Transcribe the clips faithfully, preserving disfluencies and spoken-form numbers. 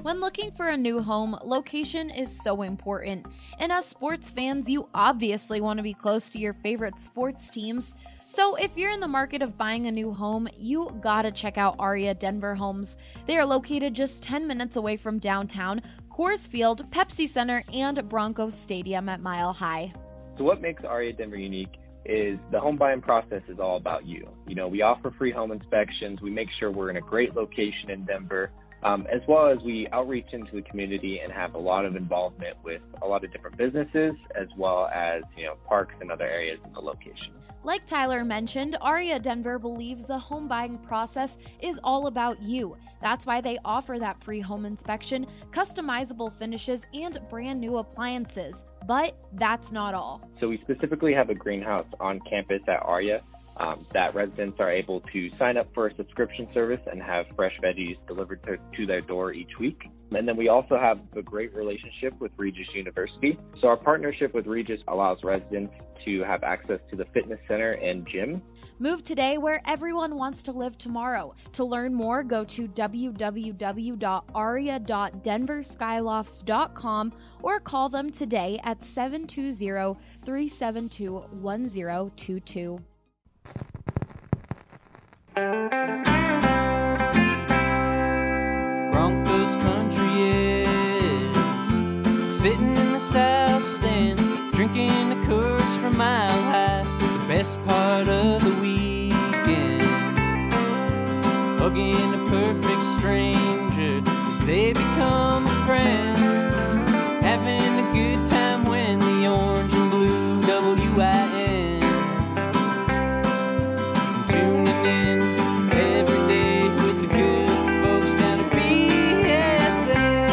When looking for a new home, location is so important. And as sports fans, you obviously want to be close to your favorite sports teams. So if you're in the market of buying a new home, you gotta check out Aria Denver Homes. They are located just ten minutes away from downtown, Coors Field, Pepsi Center, and Broncos Stadium at Mile High. So what makes Aria Denver unique is the home buying process is all about you. You know, we offer free home inspections. We make sure we're in a great location in Denver. Um, as well as we outreach into the community and have a lot of involvement with a lot of different businesses, as well as, you know, parks and other areas in the location. Like Tyler mentioned, Aria Denver believes the home buying process is all about you. That's why they offer that free home inspection, customizable finishes, and brand new appliances. But that's not all. So we specifically have a greenhouse on campus at Aria. Um, that residents are able to sign up for a subscription service and have fresh veggies delivered to, to their door each week. And then we also have a great relationship with Regis University. So our partnership with Regis allows residents to have access to the fitness center and gym. Move today where everyone wants to live tomorrow. To learn more, go to w w w dot aria dot denver skylofts dot com or call them today at seven two zero, three seven two, one zero two two. Broncos country is sitting in the south stands, drinking the Coors from Mile High. The best part of the weekend, hugging a perfect stranger as they become a friend, having a good time when the orange and blue W I N tuning in every day with the good folks down at B S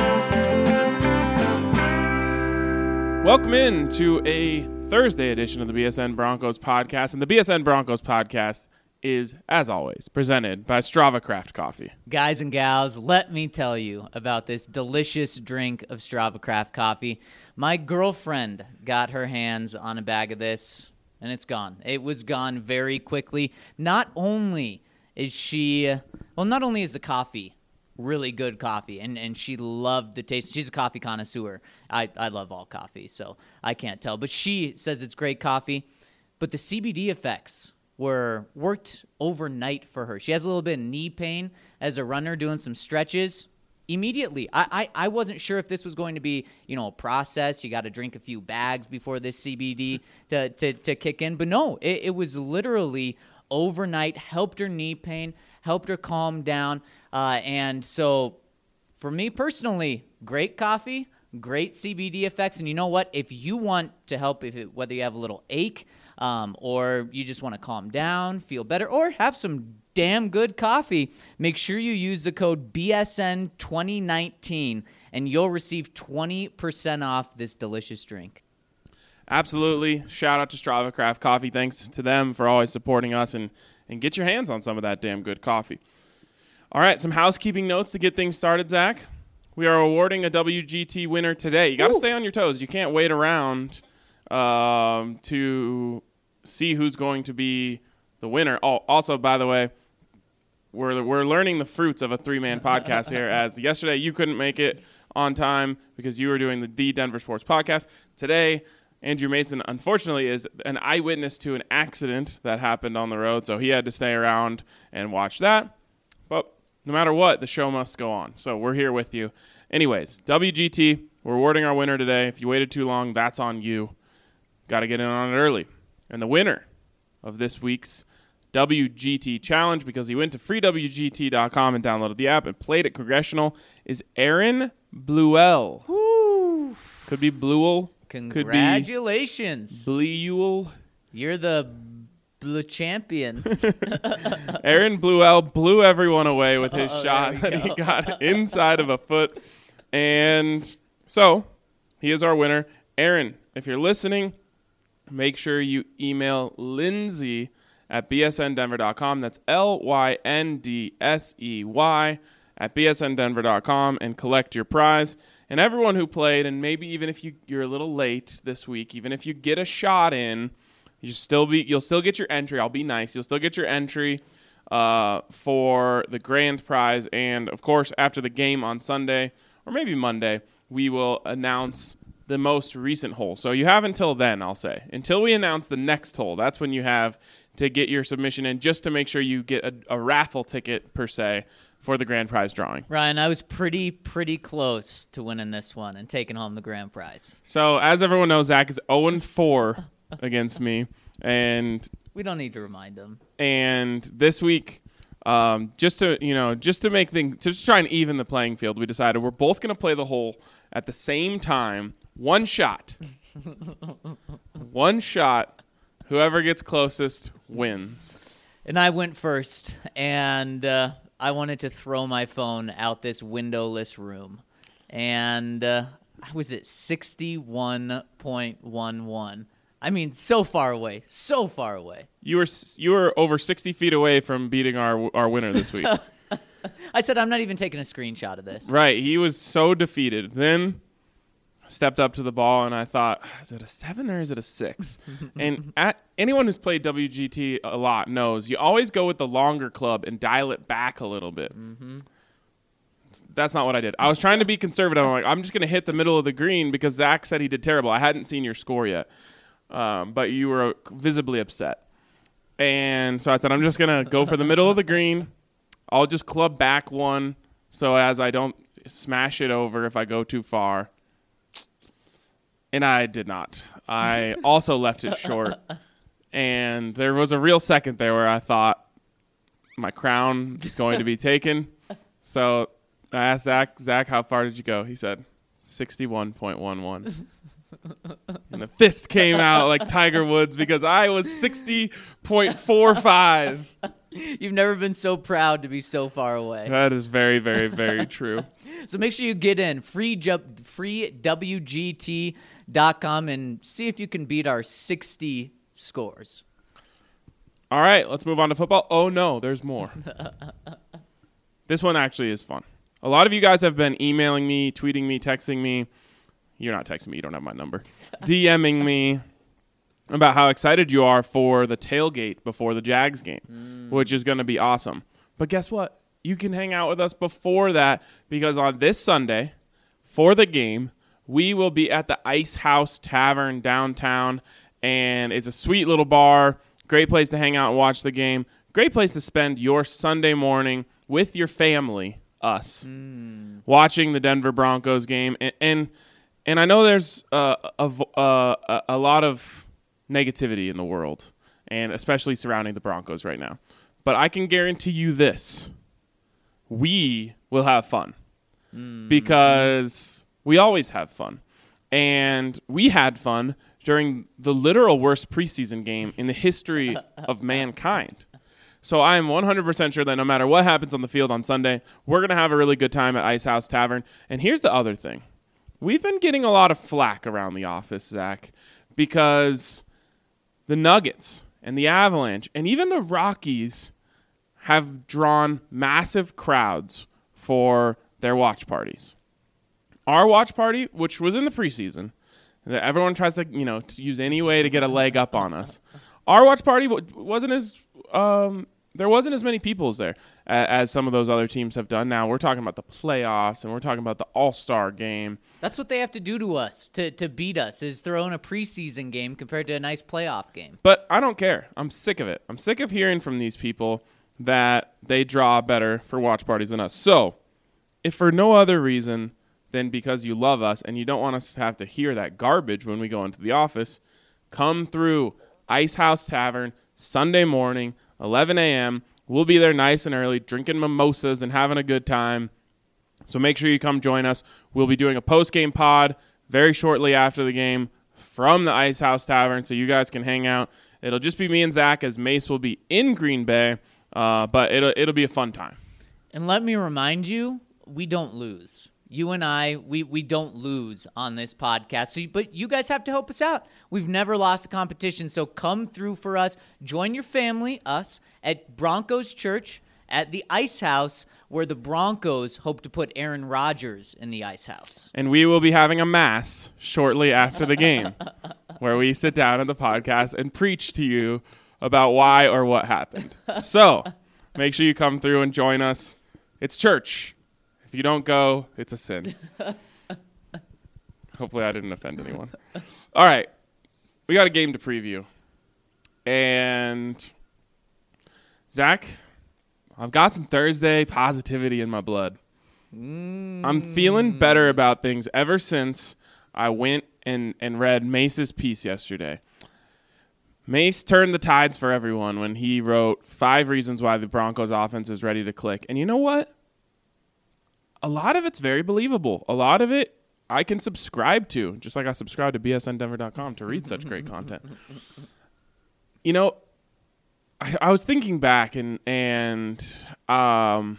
N. Welcome in to a Thursday edition of the B S N Broncos podcast. And the B S N Broncos podcast is, as always, presented by Strava Craft Coffee. Guys and gals, let me tell you about this delicious drink of Strava Craft Coffee. My girlfriend got her hands on a bag of this, and it's gone. It was gone very quickly. Not only is she, well, not only is the coffee really good coffee, and, and she loved the taste. She's a coffee connoisseur. I, I love all coffee, so I can't tell. But she says it's great coffee. But the C B D effects were worked overnight for her. She has a little bit of knee pain as a runner doing some stretches. Immediately, I, I, I wasn't sure if this was going to be, you know, a process. You got to drink a few bags before this C B D to, to, to kick in. But no, it, it was literally overnight, helped her knee pain, helped her calm down. Uh, and so for me personally, great coffee, great C B D effects. And you know what? If you want to help, if it, whether you have a little ache um, or you just want to calm down, feel better, or have some damn good coffee, make sure you use the code B S N twenty nineteen and you'll receive twenty percent off this delicious drink. Absolutely. Shout out to Strava Craft Coffee. Thanks to them for always supporting us, and, and get your hands on some of that damn good coffee. All right, some housekeeping notes to get things started, Zach. We are awarding a W G T winner today. You got to stay on your toes. You can't wait around um, to see who's going to be the winner. Oh, also, by the way, we're we're learning the fruits of a three-man podcast here, as yesterday you couldn't make it on time because you were doing the, the Denver Sports Podcast. Today, Andrew Mason, unfortunately, is an eyewitness to an accident that happened on the road, so he had to stay around and watch that. But no matter what, the show must go on, so we're here with you. Anyways, W G T, we're awarding our winner today. If you waited too long, that's on you. Got to get in on it early. And the winner of this week's W G T Challenge, because he went to free w g t dot com and downloaded the app and played at Congressional, is Aaron Bluell. Woo! Could be Bluell. Congratulations. Could be Bleuel. You're the blue champion. Aaron Bluell blew everyone away with his oh, shot that go. he got inside of a foot. And so he is our winner. Aaron, if you're listening, make sure you email Lindsay at b s n denver dot com. That's L Y N D S E Y at b s n denver dot com and collect your prize. And everyone who played, and maybe even if you, you're a little late this week, even if you get a shot in, you still be you'll still get your entry. I'll be nice. You'll still get your entry uh, for the grand prize. And, of course, after the game on Sunday, or maybe Monday, we will announce the most recent hole. So you have until then, I'll say. Until we announce the next hole, that's when you have to get your submission in, just to make sure you get a, a raffle ticket, per se, for the grand prize drawing. Ryan, I was pretty, pretty close to winning this one and taking home the grand prize. So as everyone knows, Zach is oh and four against me. And we don't need to remind him. And this week, um, just to you know, just to make things, to just try and even the playing field, we decided we're both going to play the hole at the same time. One shot. One shot. Whoever gets closest wins. And I went first, and uh, I wanted to throw my phone out this windowless room. And uh, I was at sixty-one point one one. I mean, so far away, so far away. You were you were over sixty feet away from beating our our winner this week. I said I'm not even taking a screenshot of this. Right, he was so defeated. Then stepped up to the ball, and I thought, is it a seven or is it a six? And at, anyone who's played W G T a lot knows you always go with the longer club and dial it back a little bit. Mm-hmm. That's not what I did. I was trying to be conservative. I'm like, I'm just going to hit the middle of the green because Zach said he did terrible. I hadn't seen your score yet. Um, but you were visibly upset. And so I said, I'm just going to go for the middle of the green. I'll just club back one so as I don't smash it over if I go too far. And I did not. I also left it short. And there was a real second there where I thought my crown is going to be taken. So I asked Zach, Zach, how far did you go? He said sixty-one point one one. And the fist came out like Tiger Woods because I was sixty point four five. You've never been so proud to be so far away. That is very, very, very true. So make sure you get in free free W G T dot com and see if you can beat our sixty scores. All right, let's move on to football. Oh, no, there's more. This one actually is fun. A lot of you guys have been emailing me, tweeting me, texting me. You're not texting me. You don't have my number. DMing me about how excited you are for the tailgate before the Jags game, mm. which is going to be awesome. But guess what? You can hang out with us before that because on this Sunday, for the game, we will be at the Ice House Tavern downtown, and it's a sweet little bar, great place to hang out and watch the game, great place to spend your Sunday morning with your family, us, mm. watching the Denver Broncos game. And and, and I know there's uh, a, a, a lot of negativity in the world, and especially surrounding the Broncos right now. But I can guarantee you this. We will have fun mm. because we always have fun. And we had fun during the literal worst preseason game in the history of mankind. So I am one hundred percent sure that no matter what happens on the field on Sunday, we're going to have a really good time at Ice House Tavern. And here's the other thing. We've been getting a lot of flack around the office, Zach, because the Nuggets and the Avalanche and even the Rockies have drawn massive crowds for their watch parties. Our watch party, which was in the preseason, that everyone tries to, you know, to use any way to get a leg up on us. Our watch party wasn't as um, there wasn't as many people as there as, as some of those other teams have done. Now we're talking about the playoffs and we're talking about the All-Star game. That's what they have to do to us to to beat us is throw in a preseason game compared to a nice playoff game. But I don't care. I'm sick of it. I'm sick of hearing from these people that they draw better for watch parties than us. So, if for no other reason than because you love us and you don't want us to have to hear that garbage when we go into the office, come through Ice House Tavern Sunday morning, eleven a.m. We'll be there nice and early, drinking mimosas and having a good time. So make sure you come join us. We'll be doing a post-game pod very shortly after the game from the Ice House Tavern so you guys can hang out. It'll just be me and Zach as Mace will be in Green Bay. Uh, but it'll it'll be a fun time. And let me remind you, we don't lose. You and I, we, we don't lose on this podcast. So, but you guys have to help us out. We've never lost a competition, so come through for us. Join your family, us, at Broncos Church at the Ice House, where the Broncos hope to put Aaron Rodgers in the Ice House. And we will be having a mass shortly after the game, where we sit down at the podcast and preach to you about why or what happened. So make sure you come through and join us. It's church. If you don't go, it's a sin. Hopefully I didn't offend anyone. All right. We got a game to preview. And Zach, I've got some Thursday positivity in my blood. Mm. I'm feeling better about things ever since I went and, and read Mace's piece yesterday. Mace turned the tides for everyone when he wrote five reasons why the Broncos offense is ready to click. And you know what? A lot of it's very believable. A lot of it I can subscribe to, just like I subscribe to B S N Denver dot com to read such great content. You know, I, I was thinking back, and and um,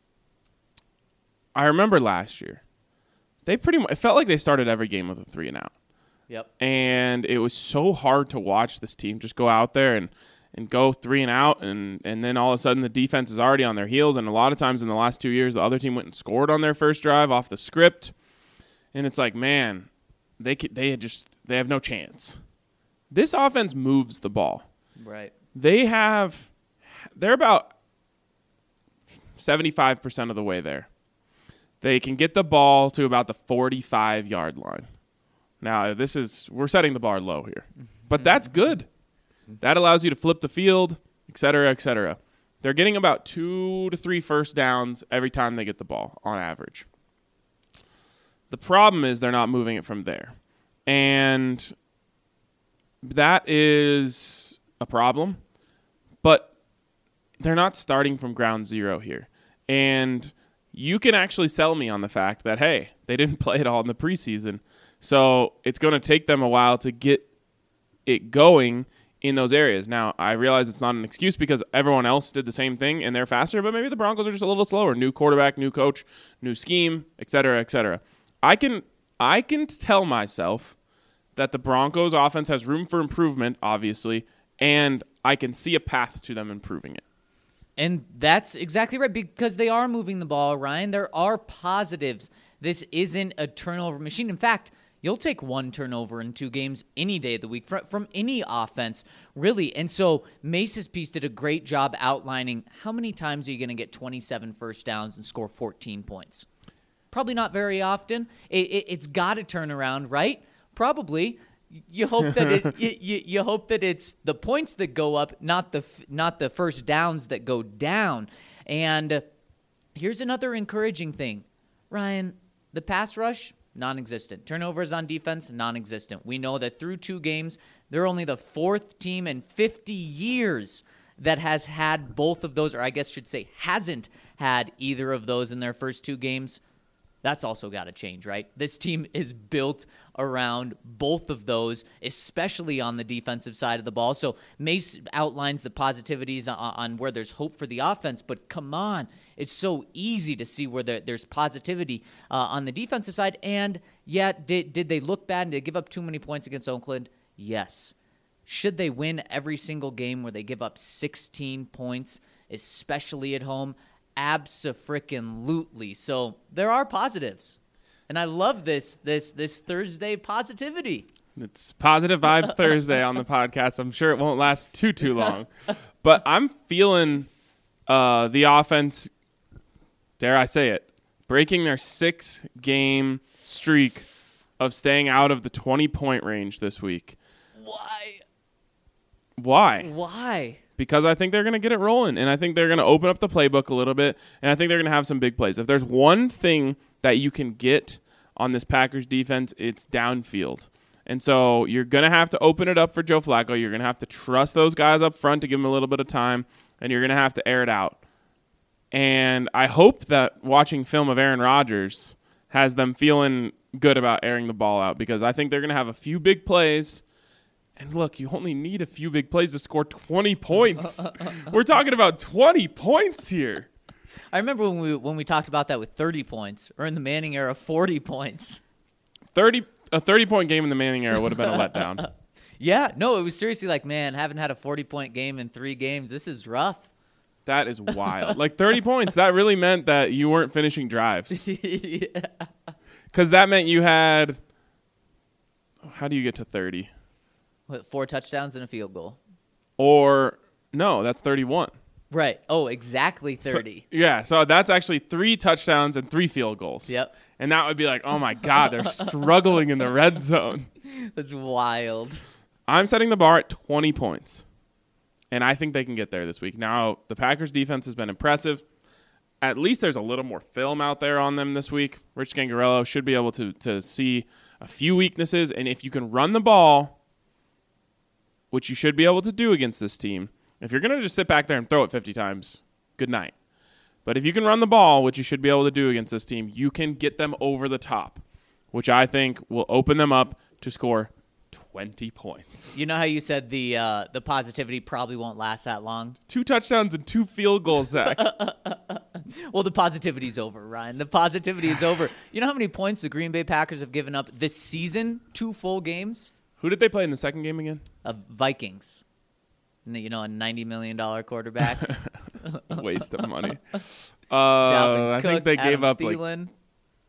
I remember last year, they pretty much, it felt like they started every game with a three and out. Yep. And it was so hard to watch this team just go out there and, and go three and out, and, and then all of a sudden the defense is already on their heels, and a lot of times in the last two years, the other team went and scored on their first drive off the script. And it's like, man, they could, they had just they have no chance. This offense moves the ball. Right. They have they're about seventy-five percent of the way there. They can get the ball to about the forty-five yard line. Now, this is we're setting the bar low here. But that's good. That allows you to flip the field, et cetera, et cetera. They're getting about two to three first downs every time they get the ball on average. The problem is they're not moving it from there. And that is a problem. But they're not starting from ground zero here. And you can actually sell me on the fact that, hey, they didn't play it all in the preseason. So it's going to take them a while to get it going in those areas. Now, I realize it's not an excuse because everyone else did the same thing and they're faster, but maybe the Broncos are just a little slower. New quarterback, new coach, new scheme, et cetera, et cetera. I can I can tell myself that the Broncos offense has room for improvement, obviously, and I can see a path to them improving it. And that's exactly right, because they are moving the ball, Ryan. There are positives. This isn't a turnover machine. In fact, you'll take one turnover in two games any day of the week from, from any offense, really. And so Mace's piece did a great job outlining how many times are you going to get twenty-seven first downs and score fourteen points. Probably not very often. It, it, it's got to turn around, right? Probably. You hope that it, you, you, you hope that it's the points that go up, not the not the first downs that go down. And here's another encouraging thing, Ryan. The pass rush, non-existent. Turnovers on defense, non-existent. We know that through two games, they're only the fourth team in fifty years that has had both of those, or I guess should say hasn't had either of those in their first two games. That's also got to change, right? This team is built around both of those, especially on the defensive side of the ball. So Mace outlines the positivities on, on where there's hope for the offense, but come on, it's so easy to see where there, there's positivity uh, on the defensive side. And yet, did, did they look bad and did they give up too many points against Oakland? Yes. Should they win every single game where they give up sixteen points, especially at home? Abso-frickin-lutely. So there are positives. And I love this this this Thursday positivity. It's Positive Vibes Thursday on the podcast. I'm sure it won't last too, too long. But I'm feeling uh, the offense, dare I say it, breaking their six-game streak of staying out of the twenty-point range this week. Why? Why? Why? Because I think they're going to get it rolling, and I think they're going to open up the playbook a little bit, and I think they're going to have some big plays. If there's one thing that you can get on this Packers defense, it's downfield. And so you're going to have to open it up for Joe Flacco. You're going to have to trust those guys up front to give them a little bit of time, and you're going to have to air it out. And I hope that watching film of Aaron Rodgers has them feeling good about airing the ball out, because I think they're going to have a few big plays. And look, you only need a few big plays to score twenty points. We're talking about twenty points here. I remember when we when we talked about that with thirty points, or in the Manning era, forty points. thirty a thirty-point game in the Manning era would have been a letdown. Yeah, no, it was seriously like, man, haven't had a forty-point game in three games. This is rough. That is wild. Like thirty points, that really meant that you weren't finishing drives. Yeah. Because that meant you had, how do you get to thirty? What, four touchdowns and a field goal. Or, no, that's thirty-one. Right. Oh, exactly thirty. So, yeah, so that's actually three touchdowns and three field goals. Yep. And that would be like, oh, my God, they're struggling in the red zone. That's wild. I'm setting the bar at twenty points, and I think they can get there this week. Now, the Packers' defense has been impressive. At least there's a little more film out there on them this week. Rich Gangarello should be able to, to see a few weaknesses, and if you can run the ball, which you should be able to do against this team, if you're going to just sit back there and throw it fifty times, good night. But if you can run the ball, which you should be able to do against this team, you can get them over the top, which I think will open them up to score twenty points. You know how you said the uh, the positivity probably won't last that long? Two touchdowns and two field goals, Zach. Well, the positivity's over, Ryan. The positivity is over. You know how many points the Green Bay Packers have given up this season? Two full games? Who did they play in the second game again? Of Vikings. You know, a ninety million dollars quarterback. Waste of money. Uh, Dalvin I Cook, think they gave Adam up Thielen. like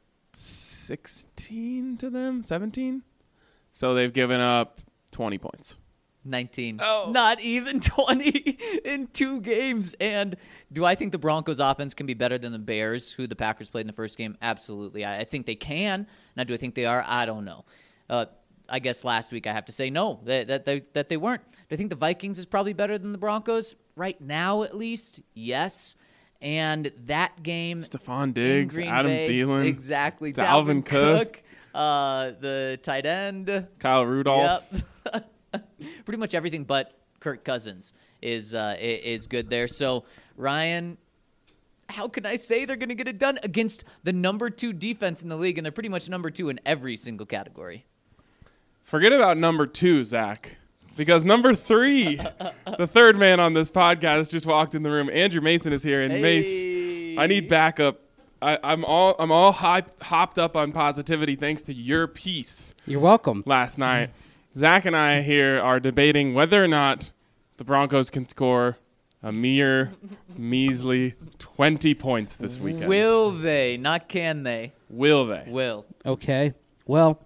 sixteen to them, seventeen. So they've given up twenty points. nineteen. Oh. Not even twenty in two games. And do I think the Broncos offense can be better than the Bears, who the Packers played in the first game? Absolutely. I, I think they can. Now, do I think they are? I don't know. Uh, I guess last week I have to say no, that, that, they, that they weren't. Do I think the Vikings is probably better than the Broncos? Right now, at least, yes. And that game, Stephon Diggs, in Green Adam Bay, Thielen. exactly, Dalvin Dalvin Cook. Cook, uh, the tight end, Kyle Rudolph. Yep. Pretty much everything but Kirk Cousins is uh, is good there. So, Ryan, how can I say they're going to get it done against the number two defense in the league, and they're pretty much number two in every single category? Forget about number two, Zach, because number three, the third man on this podcast, just walked in the room. Andrew Mason is here, and Hey. Mace, I need backup. I, I'm all I'm all hyped, hopped up on positivity thanks to your piece You're welcome. last night. Zach and I here are debating whether or not the Broncos can score a mere measly twenty points this weekend. Will they? Not can they. Will they? Will. Okay. Well,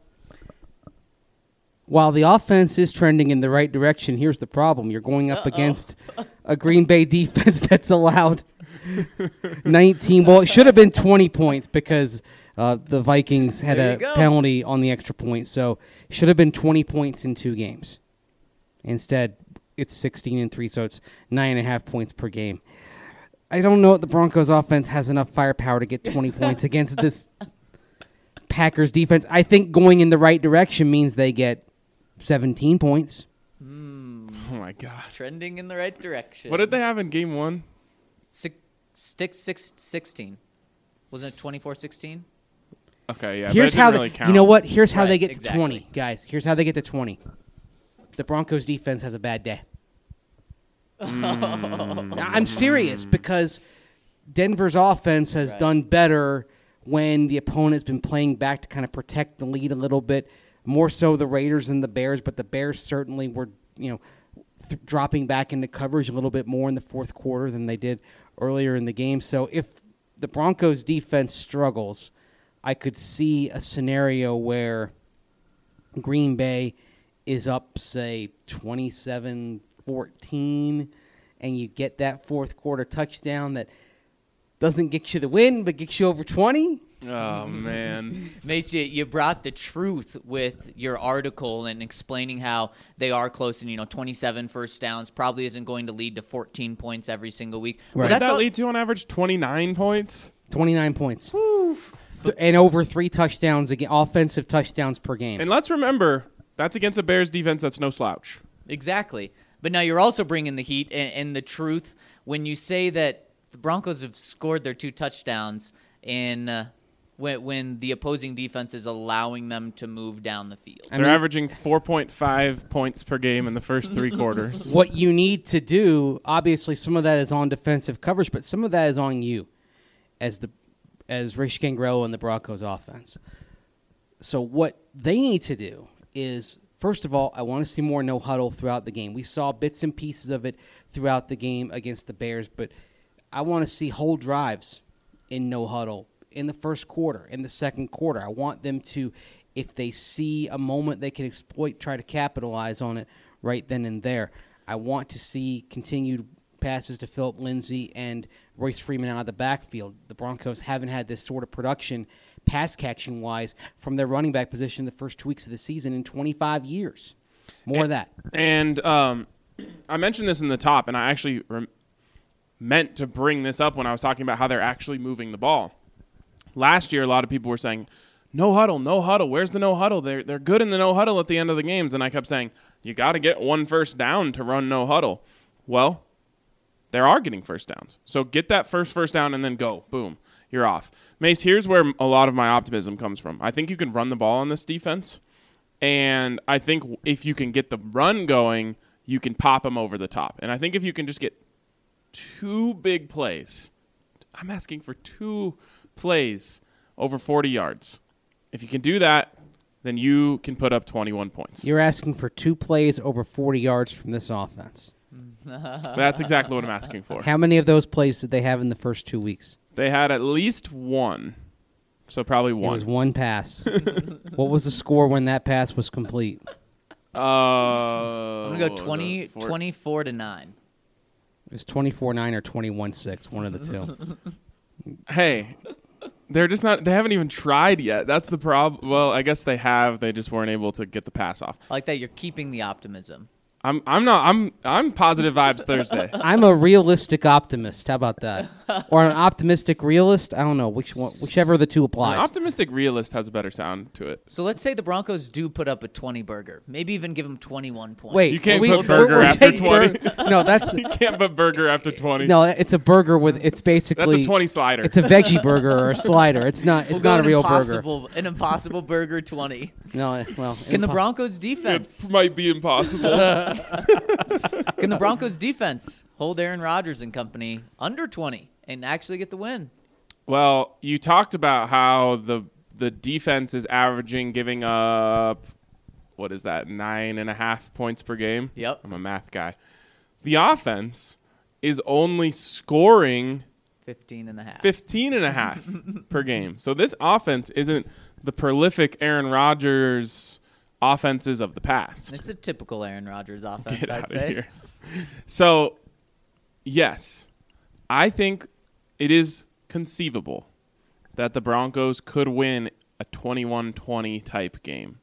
while the offense is trending in the right direction, here's the problem. You're going up Uh-oh. against a Green Bay defense that's allowed nineteen. Well, it should have been twenty points because uh, the Vikings had There you a go. penalty on the extra point. So it should have been twenty points in two games. Instead, it's sixteen and three, so it's nine and a half points per game. I don't know if the Broncos offense has enough firepower to get twenty points against this Packers defense. I think going in the right direction means they get seventeen points. Oh my God! Trending in the right direction. What did they have in game one? Six, six, six, sixteen. Wasn't it twenty-four sixteen? Okay, yeah. Here's that how didn't they, really count. you know what? Here's how Right, they get exactly. to twenty, guys. Here's how they get to twenty. The Broncos defense has a bad day. Mm. Now, I'm serious because Denver's offense has Right. done better when the opponent's been playing back to kind of protect the lead a little bit, more so the Raiders and the Bears, but the Bears certainly were, you know, th- dropping back into coverage a little bit more in the fourth quarter than they did earlier in the game. So if the Broncos defense struggles, I could see a scenario where Green Bay is up, say, twenty-seven fourteen, and you get that fourth quarter touchdown that doesn't get you the win, but gets you over twenty. Oh man. Mace, you, you brought the truth with your article and explaining how they are close, and you know, twenty-seven first downs probably isn't going to lead to fourteen points every single week. Right. What But did that's that all- lead to on average? twenty-nine points? twenty-nine points. Th- and over three touchdowns, again, offensive touchdowns per game. And let's remember, that's against a Bears defense that's no slouch. Exactly. But now you're also bringing the heat and, and the truth when you say that the Broncos have scored their two touchdowns in uh, when, when the opposing defense is allowing them to move down the field. I They're mean- averaging four point five points per game in the first three quarters. What you need to do, obviously, some of that is on defensive coverage, but some of that is on you as the as Rich Gangrello and the Broncos offense. So what they need to do is, first of all, I want to see more no huddle throughout the game. We saw bits and pieces of it throughout the game against the Bears, but I want to see whole drives in no huddle in the first quarter, in the second quarter. I want them to, if they see a moment they can exploit, try to capitalize on it right then and there. I want to see continued passes to Philip Lindsay and Royce Freeman out of the backfield. The Broncos haven't had this sort of production, pass catching wise, from their running back position the first two weeks of the season in twenty-five years. More and, of that. And um, I mentioned this in the top, and I actually rem- meant to bring this up when I was talking about how they're actually moving the ball. Last year, a lot of people were saying, no huddle, no huddle. Where's the no huddle? They're, they're good in the no huddle at the end of the games. And I kept saying, you got to get one first down to run no huddle. Well, they are getting first downs. So get that first first down and then go. Boom. You're off. Mace, here's where a lot of my optimism comes from. I think you can run the ball on this defense. And I think if you can get the run going, you can pop them over the top. And I think if you can just get two big plays, I'm asking for two plays over forty yards. If you can do that, then you can put up twenty-one points. You're asking for two plays over forty yards from this offense. That's exactly what I'm asking for. How many of those plays did they have in the first two weeks? They had at least one. So probably one. It was one pass. What was the score when that pass was complete? Uh, I'm going to go twenty, twenty-four to nine. It was twenty-four nine or twenty-one six, one of the two. Hey, they're just not, they haven't even tried yet. That's the problem. Well, I guess they have. They just weren't able to get the pass off. I like that you're keeping the optimism. I'm I'm not I'm I'm positive vibes Thursday. I'm a realistic optimist. How about that? Or an optimistic realist? I don't know which one, whichever of the two An applies. optimistic realist has a better sound to it. So let's say the Broncos do put up a twenty burger. Maybe even give them twenty-one points. Wait, You can't we- put burger we're after taking twenty. bur- no, that's You can't put burger after twenty. no, it's a burger with it's basically That's a twenty slider. It's a veggie burger or a slider. It's not. It's We'll go not a an real burger. impossible, An impossible burger twenty. No, well, Can the impo- Broncos It defense? might be impossible. Can the Broncos defense hold Aaron Rodgers and company under twenty and actually get the win? Well, you talked about how the the defense is averaging giving up, what is that, nine and a half points per game? Yep. I'm a math guy. The offense is only scoring fifteen and a half. fifteen and a half per game. So this offense isn't the prolific Aaron Rodgers offenses of the past. It's a typical Aaron Rodgers offense, Get I'd out of say. here. So, yes, I think it is conceivable that the Broncos could win a twenty-one twenty type game.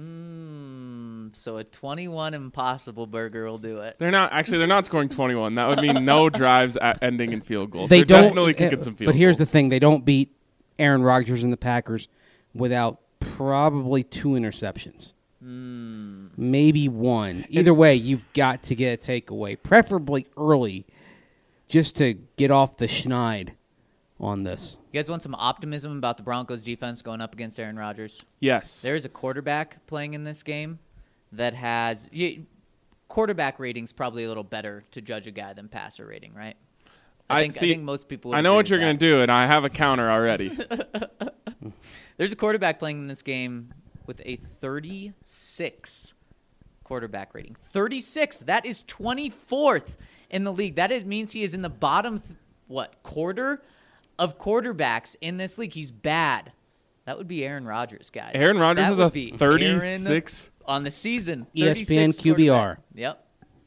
Mm, so a twenty-one impossible burger will do it. They're not actually. They're not scoring twenty-one. That would mean no drives at ending in field goals. They They're don't. definitely uh, kicking some field but here's goals. the thing: they don't beat Aaron Rodgers and the Packers without probably two interceptions. Mm. Maybe one. Either way, you've got to get a takeaway, preferably early, just to get off the schneid on this. You guys want some optimism about the Broncos defense going up against Aaron Rodgers? Yes. There's a quarterback playing in this game that has you, quarterback ratings probably a little better to judge a guy than passer rating, right? I, I think, see- I think most people. Would I know agree what with you're that. going to do, and I have a counter already. There's a quarterback playing in this game with a thirty-six quarterback rating. thirty-six. That is twenty-fourth in the league. That is, means he is in the bottom, th- what, quarter of quarterbacks in this league. He's bad. That would be Aaron Rodgers, guys. Aaron Rodgers That has would a be thirty-six? Aaron on the season. E S P N thirty-six Q B R. quarterback. Yep.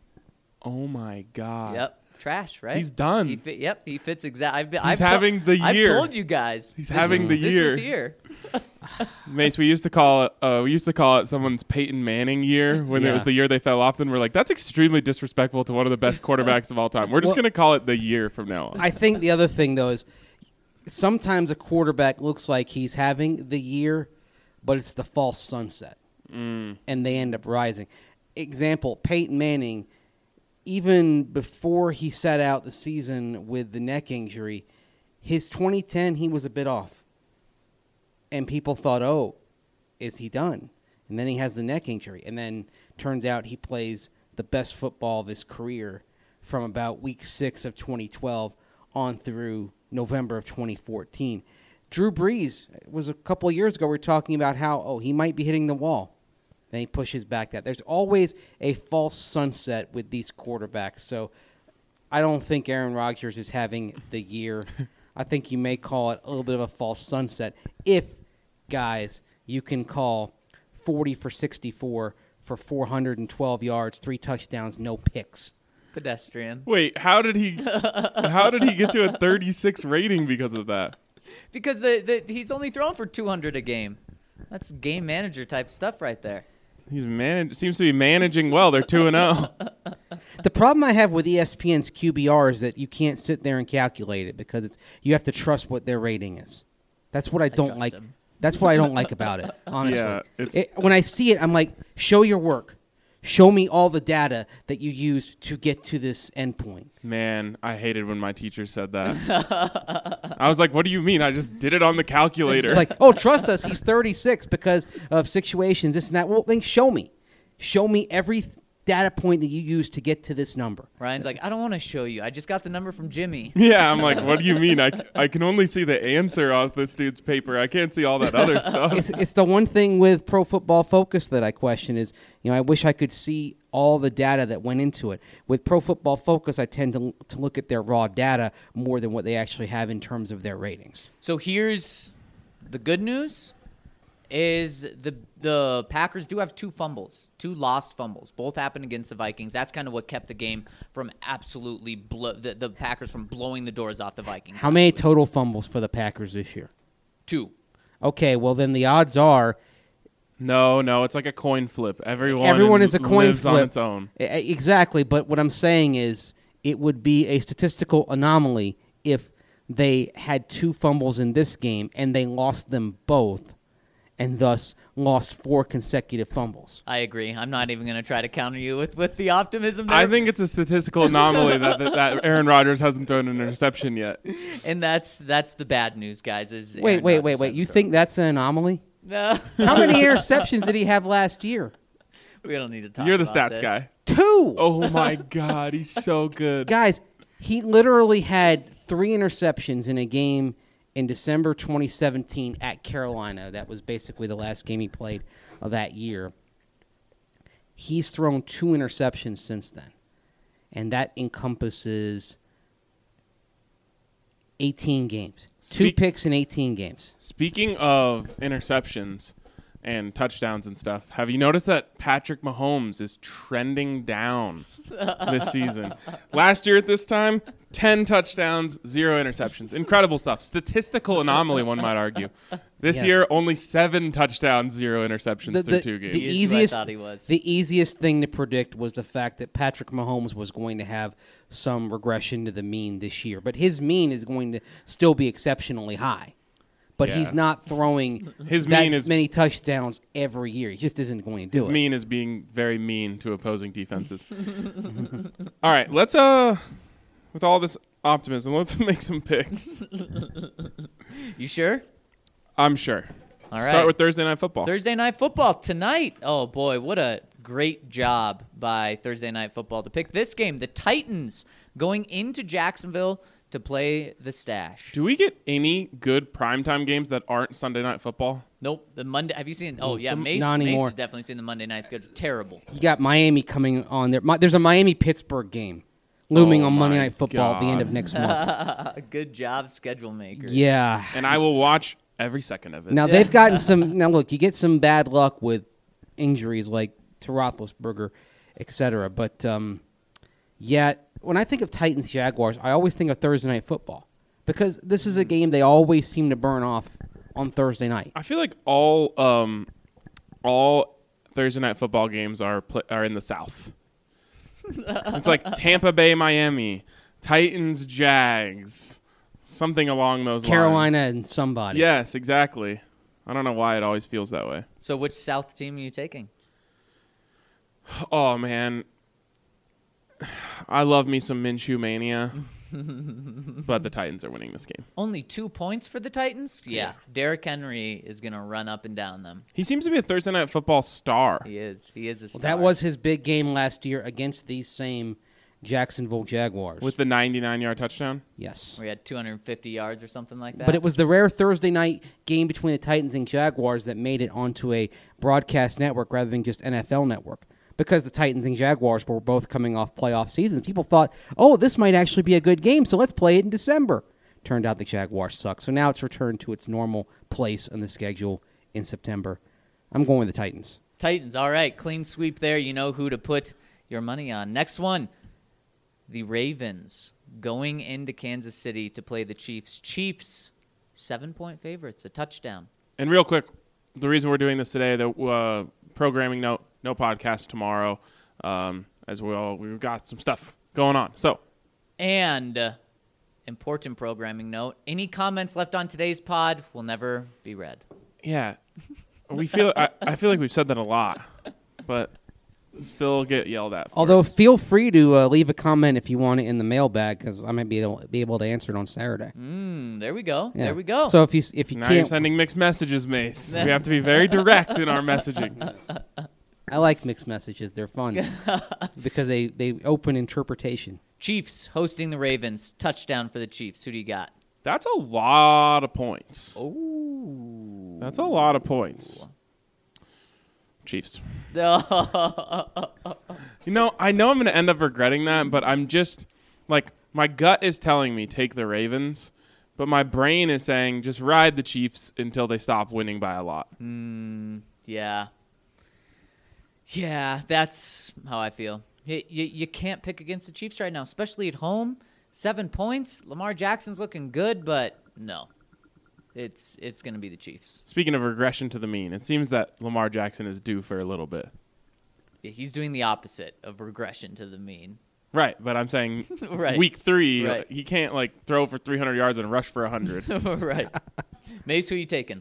Oh, my God. Yep. Trash, right? He's done. He fit, yep, he fits exactly. I've, been- He's I've to- having the I've year. told you guys. He's This having was- the This was year. here. Mace, we used to call it uh, we used to call it someone's Peyton Manning year when it Yeah. was the year they fell off. Then we're like, that's extremely disrespectful to one of the best quarterbacks of all time. We're just Well- going to call it the year from now on. I think the other thing, though, is sometimes a quarterback looks like he's having the year, but it's the false sunset, Mm. and they end up rising. Example, Peyton Manning, even before he set out the season with the neck injury, his twenty ten, he was a bit off. And people thought, oh, is he done? And then he has the neck injury. And then turns out he plays the best football of his career from about week six of twenty twelve on through November of twenty fourteen. Drew Brees was a couple of years ago. We were talking about how, oh, he might be hitting the wall. Then he pushes back that. There's always a false sunset with these quarterbacks. So I don't think Aaron Rodgers is having the year. I think you may call it a little bit of a false sunset. If, guys, you can call forty for sixty-four for four hundred twelve yards, three touchdowns, no picks. Pedestrian. Wait, how did he? How did he get to a thirty-six rating because of that? Because the, the, he's only thrown for two hundred a game. That's game manager type stuff right there. He's managed. Seems to be managing well. They're two and zero. The problem I have with E S P N's Q B R is that you can't sit there and calculate it because it's you have to trust what their rating is. That's what I don't trust like. him. That's what I don't like about it. Honestly, Yeah, it's- It- when I see it, I'm like, show your work. Show me all the data that you used to get to this endpoint. Man, I hated when my teacher said that. I was like, "What do you mean? I just did it on the calculator." It's like, oh, trust us, he's thirty-six because of situations, this and that. Well, then show me. Show me every th- data point that you used to get to this number. Ryan's like, I don't want to show you. I just got the number from Jimmy. Yeah, I'm like, what do you mean? I, c- I can only see the answer off this dude's paper. I can't see all that other stuff. It's, it's the one thing with Pro Football Focus that I question is, you know, I wish I could see all the data that went into it. With Pro Football Focus, I tend to, to look at their raw data more than what they actually have in terms of their ratings. So here's the good news is the the Packers do have two fumbles, two lost fumbles. Both happened against the Vikings. That's kind of what kept the game from absolutely blow, the, the Packers from blowing the doors off the Vikings. How many total fumbles for the Packers this year? Two. Okay, well, then the odds are No, no, it's like a coin flip. Everyone, everyone is a coin lives flip. on its own. E- Exactly, but what I'm saying is it would be a statistical anomaly if they had two fumbles in this game and they lost them both and thus lost four consecutive fumbles. I agree. I'm not even going to try to counter you with, with the optimism there. I think it's a statistical anomaly that, that that Aaron Rodgers hasn't thrown an interception yet. and that's that's the bad news, guys. Is Wait, Aaron wait, Rodgers wait, wait. hasn't You thrown. think that's an anomaly? No. How many interceptions did he have last year? We don't need to talk You're the about stats this. guy. Two! Oh my God, he's so good. Guys, he literally had three interceptions in a game in December twenty seventeen at Carolina. That was basically the last game he played of that year. He's thrown two interceptions since then, and that encompasses eighteen games. Two Speak- picks in eighteen games. Speaking of interceptions and touchdowns and stuff, have you noticed that Patrick Mahomes is trending down this season? Last year at this time, ten touchdowns, zero interceptions. Incredible stuff. Statistical anomaly, one might argue. This Yes. year, only seven touchdowns, zero interceptions The- through the- two games. the He is who I easiest, thought he was. the easiest thing to predict was the fact that Patrick Mahomes was going to have some regression to the mean this year. But his mean is going to still be exceptionally high. But Yeah. he's not throwing His that mean is- many touchdowns every year. He just isn't going to do His it. mean is being very mean to opposing defenses. All right, let's uh, with all this optimism, let's make some picks. You sure? I'm sure. All right. Start with Thursday Night Football. Thursday Night Football tonight. Oh, boy, what a great job by Thursday Night Football to pick this game. The Titans going into Jacksonville to play the Stash. Do we get any good primetime games that aren't Sunday Night Football? Nope. The Monday. Have you seen? Oh, yeah. Mm, Mace, not Mace anymore. has definitely seen the Monday night schedule. Terrible. You got Miami coming on there. Mi- There's a Miami-Pittsburgh game looming Oh on Monday my Night Football at the end of God. next month. Good job, schedule maker. Yeah. And I will watch every second of it. Now, they've gotten some – now, look, you get some bad luck with injuries like to Roethlisberger, et cetera. But, um, yeah, when I think of Titans-Jaguars, I always think of Thursday Night Football because this is a game they always seem to burn off on Thursday night. I feel like all um, all Thursday Night Football games are pl- are in the South. It's like Tampa Bay, Miami, Titans, Jags, something along those Carolina lines. and somebody. Yes, exactly. I don't know why it always feels that way. So which South team are you taking? Oh man, I love me some Minshew mania, but the Titans are winning this game. Only two points for the Titans? Yeah. Derrick Henry is going to run up and down them. He seems to be a Thursday Night Football star. He is. He is a star. Well, that was his big game last year against these same Jacksonville Jaguars. With the ninety-nine yard touchdown. yes. where he had two hundred fifty yards or something like that. But it was the rare Thursday night game between the Titans and Jaguars that made it onto a broadcast network rather than just N F L network. Because the Titans and Jaguars were both coming off playoff seasons. People thought, oh, this might actually be a good game, so let's play it in December. Turned out the Jaguars suck. So now it's returned to its normal place on the schedule in September. I'm going with the Titans. Titans. All right. Clean sweep there. You know who to put your money on. Next one. The Ravens going into Kansas City to play the Chiefs. Chiefs, seven-point favorites, a touchdown. And real quick, the reason we're doing this today, the uh, programming note, no podcast tomorrow, um, as well. We've got some stuff going on. So, and uh, important programming note: any comments left on today's pod will never be read. Yeah, we feel. I, I feel like we've said that a lot, but still get yelled at. Although, feel free to uh, leave a comment if you want it in the mailbag, because I might be able, be able to answer it on Saturday. Mm, there we go. Yeah. There we go. So if you if you now can't, you're sending mixed messages, Mace. We have to be very direct in our messaging. I like mixed messages. They're fun because they, they open interpretation. Chiefs hosting the Ravens. Touchdown for the Chiefs. Who do you got? That's a lot of points. Oh, That's a lot of points. Chiefs. You know, I know I'm going to end up regretting that, but I'm just, like, my gut is telling me take the Ravens, but my brain is saying just ride the Chiefs until they stop winning by a lot. Mm, yeah. Yeah, that's how I feel. You, you, you can't pick against the Chiefs right now, especially at home. Seven points. Lamar Jackson's looking good, but no. It's it's going to be the Chiefs. Speaking of regression to the mean, it seems that Lamar Jackson is due for a little bit. Yeah, he's doing the opposite of regression to the mean. Right, but I'm saying right. week three, right. he can't like throw for three hundred yards and rush for one hundred. Right. Mace, who are you taking?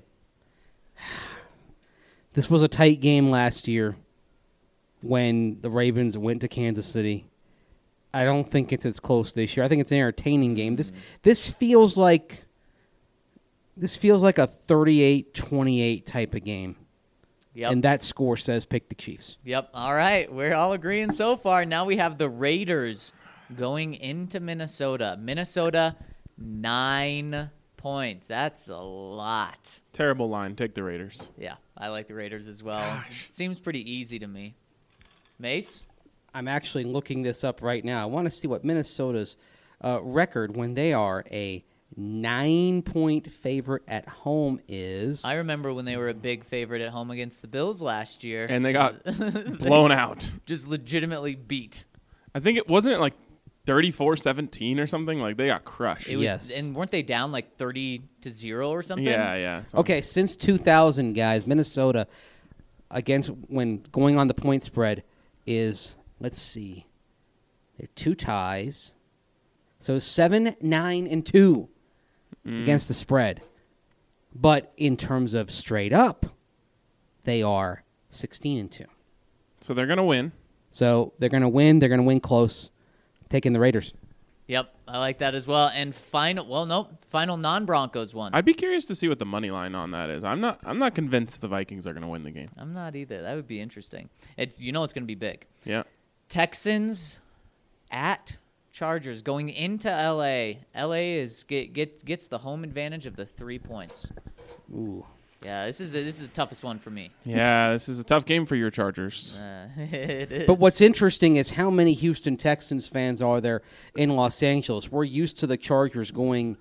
This was a tight game last year when the Ravens went to Kansas City. I don't think it's as close this year. I think it's an entertaining game. This this feels like this feels like a thirty-eight twenty-eight type of game. Yep. And that score says pick the Chiefs. Yep. All right. We're all agreeing so far. Now we have the Raiders going into Minnesota. Minnesota, nine points. That's a lot. Terrible line. Take the Raiders. Yeah, I like the Raiders as well. Gosh. It seems pretty easy to me. Mace? I'm actually looking this up right now. I want to see what Minnesota's uh, record when they are a nine-point favorite at home is. I remember when they were a big favorite at home against the Bills last year. And they got blown out. Just legitimately beat. I think it wasn't it like thirty-four seventeen or something. Like they got crushed. It was, Yes. And weren't they down like thirty to zero or something? Yeah, yeah. something. Okay, since two thousand, guys, Minnesota against when going on the point spread is, let's see, they're two ties. So seven, nine, and two mm. against the spread. But in terms of straight up, they are sixteen and two. So they're gonna win. So they're gonna win. They're gonna win close. Taking the Raiders. Yep, I like that as well. And final, well, nope, final non-Broncos one. I'd be curious to see what the money line on that is. I'm not. I'm not convinced the Vikings are gonna win the game. I'm not either. That would be interesting. It's you know it's going to be big. Yeah. Texans at Chargers going into L A. L A is get, get gets the home advantage of the three points. Ooh. Yeah, this is a, this is the toughest one for me. Yeah, this is a tough game for your Chargers. Uh, it is. But what's interesting is how many Houston Texans fans are there in Los Angeles. We're used to the Chargers going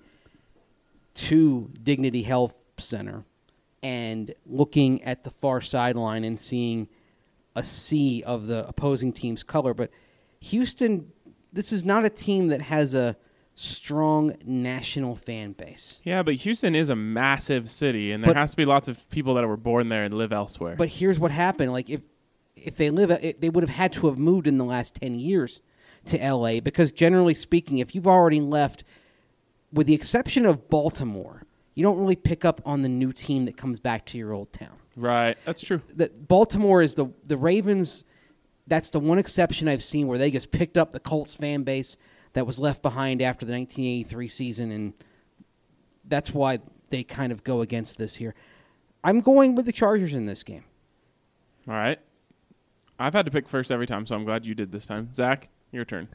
to Dignity Health Center and looking at the far sideline and seeing a sea of the opposing team's color. But Houston, this is not a team that has a strong national fan base. Yeah, but Houston is a massive city, and there But- has to be lots of people that were born there and live elsewhere. But here's what happened: like if if they live, it, they would have had to have moved in the last ten years to L A because, generally speaking, if you've already left, with the exception of Baltimore, you don't really pick up on the new team that comes back to your old town. right, that's true. The, Baltimore is the the Ravens. That's the one exception I've seen where they just picked up the Colts fan base that was left behind after the nineteen eighty-three season, and that's why they kind of go against this here. I'm going with the Chargers in this game. All right. I've had to pick first every time, so I'm glad you did this time. Zach, your turn.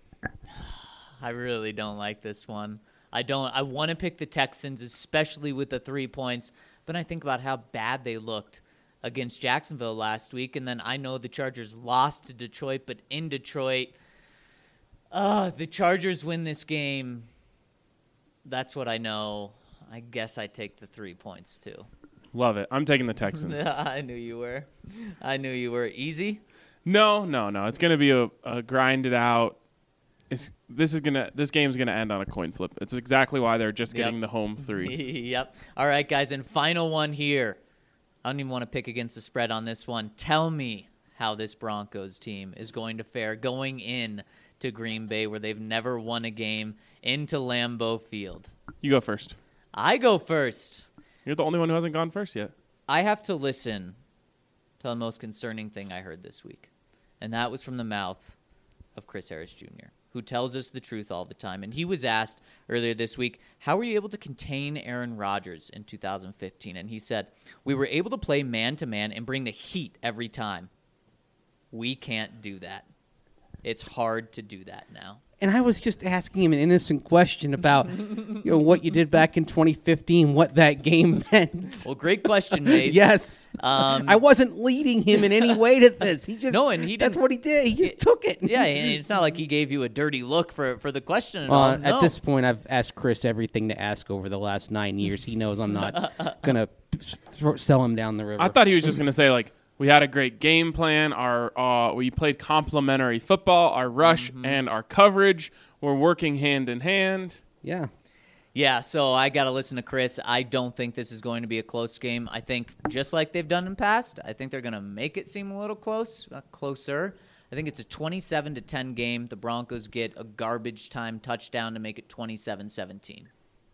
I really don't like this one. I don't. I want to pick the Texans, especially with the three points. But I think about how bad they looked against Jacksonville last week, and then I know the Chargers lost to Detroit, but in Detroit, uh, the Chargers win this game. That's what I know. I guess I take the three points too. Love it. I'm taking the Texans. I knew you were. I knew you were. Easy? No, no, no. It's going to be a, a grinded out It's, this is gonna. This game's gonna end on a coin flip. It's exactly why they're just Yep. getting the home three. Yep. All right, guys, and final one here. I don't even want to pick against the spread on this one. Tell me how this Broncos team is going to fare going in to Green Bay, where they've never won a game, into Lambeau Field. You go first. I go first. You're the only one who hasn't gone first yet. I have to listen to the most concerning thing I heard this week, and that was from the mouth of Chris Harris Junior, who tells us the truth all the time. And he was asked earlier this week, how were you able to contain Aaron Rodgers in two thousand fifteen? And he said, we were able to play man-to-man and bring the heat every time. We can't do that. It's hard to do that now. And I was just asking him an innocent question about you know what you did back in twenty fifteen, what that game meant. Well, great question, Mace. Yes. Um, I wasn't leading him in any way to this. He just No, and he That's didn't- what he did. He just took it. Yeah, and it's not like he gave you a dirty look for, for the question at Uh, all. At No. this point, I've asked Chris everything to ask over the last nine years. He knows I'm not gonna throw, sell him down the river. I thought he was just gonna say like, we had a great game plan. Our uh, we played complementary football. Our rush Mm-hmm. and our coverage were working hand in hand. yeah. Yeah, so I got to listen to Chris. I don't think this is going to be a close game. I think just like they've done in the past, I think they're going to make it seem a little close, uh, closer. I think it's a twenty-seven to ten game. The Broncos get a garbage time touchdown to make it twenty-seven seventeen.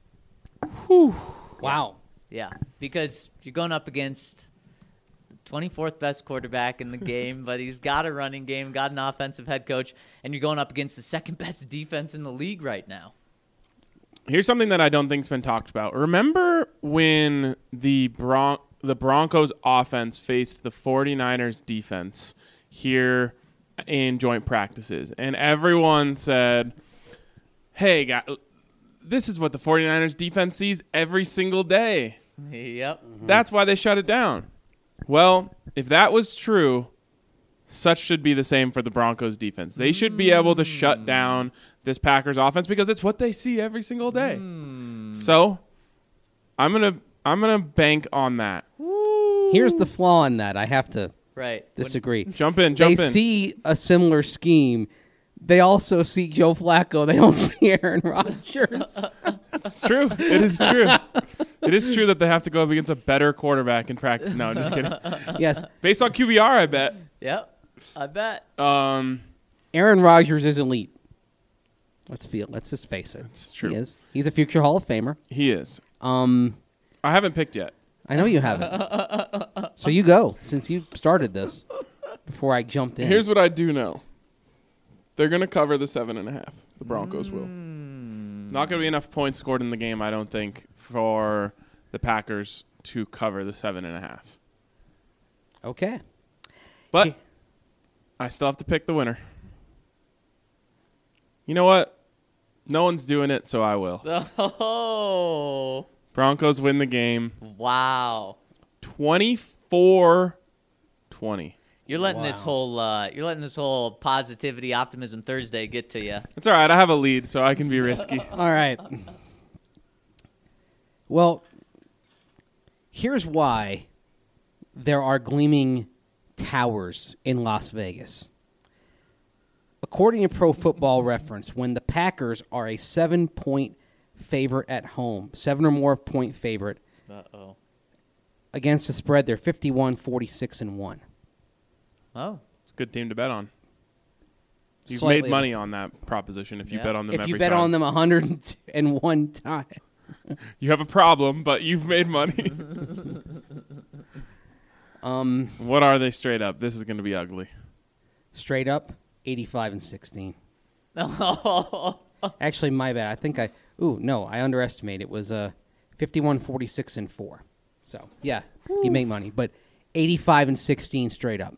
Wow. Yeah, because you're going up against the twenty-fourth best quarterback in the game, but he's got a running game, got an offensive head coach, and you're going up against the second best defense in the league right now. Here's something that I don't think's been talked about. Remember when the Bron- the Broncos offense faced the 49ers defense here in joint practices, and everyone said, hey, guy, this is what the 49ers defense sees every single day. Yep. That's why they shut it down. Well, if that was true, such should be the same for the Broncos defense. They should be able to shut down this Packers offense because it's what they see every single day. So, I'm going to I'm going to bank on that. Here's the flaw in that. I have to Right. disagree. Jump in, jump they in. see a similar scheme. They also see Joe Flacco. They don't see Aaron Rodgers. It's true. It is true. It is true that they have to go up against a better quarterback in practice. No, I'm just kidding. Yes, Based on Q B R, I bet. Yep. I bet. Um, Aaron Rodgers is elite. Let's feel. Let's just face it. It's true. He is. He's a future Hall of Famer. he is. Um, I haven't picked yet. I know you haven't. So you go since you started this. Before I jumped in. Here's what I do know. They're going to cover the seven and a half. The Broncos will. Not going to be enough points scored in the game, I don't think, for the Packers to cover the seven and a half. Okay. But I still have to pick the winner. You know what? No one's doing it, so I will. Oh. Broncos win the game Wow. twenty-four twenty. You're letting this Wow. whole uh, you're letting this whole positivity, optimism Thursday get to you. It's all right. I have a lead, so I can be risky. All right. Well, here's why there are gleaming towers in Las Vegas. According to Pro Football Reference, when the Packers are a seven-point favorite at home, seven or more point favorite Uh oh. against the spread, they're fifty-one, forty-six, and one. Oh. It's a good team to bet on. You've Slightly. made money on that proposition if you Yeah. bet on them If every you bet time. on them one hundred one time. You have a problem, but you've made money. Um, What are they straight up? This is going to be ugly. straight up, eighty-five and sixteen. Oh. Actually, my bad. I think I. Ooh, no, I underestimated. It was uh, fifty-one, forty-six, and four. So yeah, you make money, but eighty-five and sixteen straight up.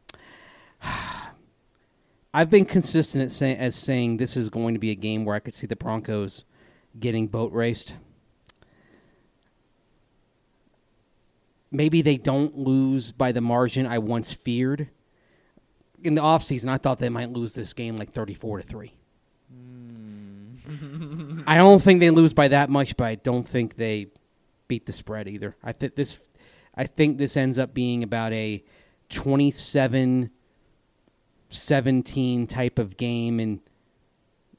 I've been consistent at say, as saying this is going to be a game where I could see the Broncos getting boat raced. Maybe they don't lose by the margin I once feared. In the offseason, I thought they might lose this game like thirty-four to three. I don't think they lose by that much, but I don't think they beat the spread either. I think this I think this ends up being about a twenty-seven seventeen type of game, and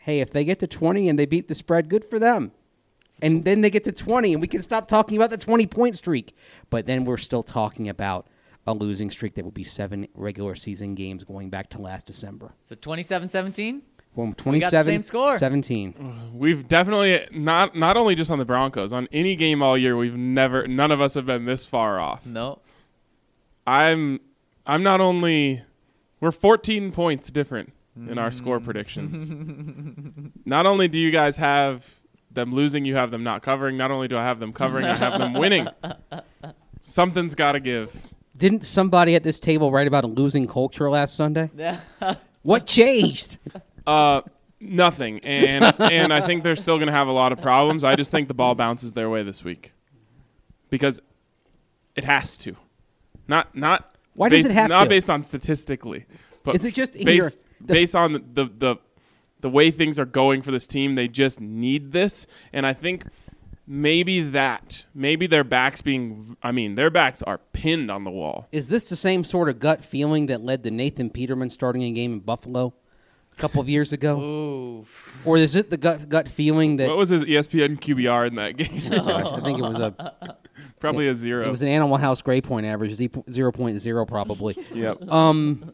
Hey, if they get to twenty and they beat the spread, good for them. And then they get to twenty, and we can stop talking about the twenty-point streak. But then we're still talking about a losing streak that would be seven regular season games going back to last December. So twenty-seven seventeen? Well, We got the same score. seventeen. We've definitely not not only just on the Broncos, on any game all year, we've never none of us have been this far off. No. I'm I'm not only we're fourteen points different in our score predictions. Not only do you guys have them losing, you have them not covering. Not only do I have them covering, I have them winning. Something's got to give. Didn't somebody at this table write about a losing culture last Sunday? What changed? Uh, nothing. And and I think they're still going to have a lot of problems. I just think the ball bounces their way this week because it has to. Not not. Why based, does it have not to? based on statistically, but Is it just in based your- the- based on the, the the the way things are going for this team? They just need this, and I think maybe that maybe their backs being. I mean, their backs are pinned on the wall. Is this the same sort of gut feeling that led to Nathan Peterman starting a game in Buffalo a couple of years ago? Ooh. Or is it the gut gut feeling that What was his E S P N Q B R in that game? Gosh, I think it was a Probably a zero. it was an Animal House grade point average, zero point zero probably. Yep. Um,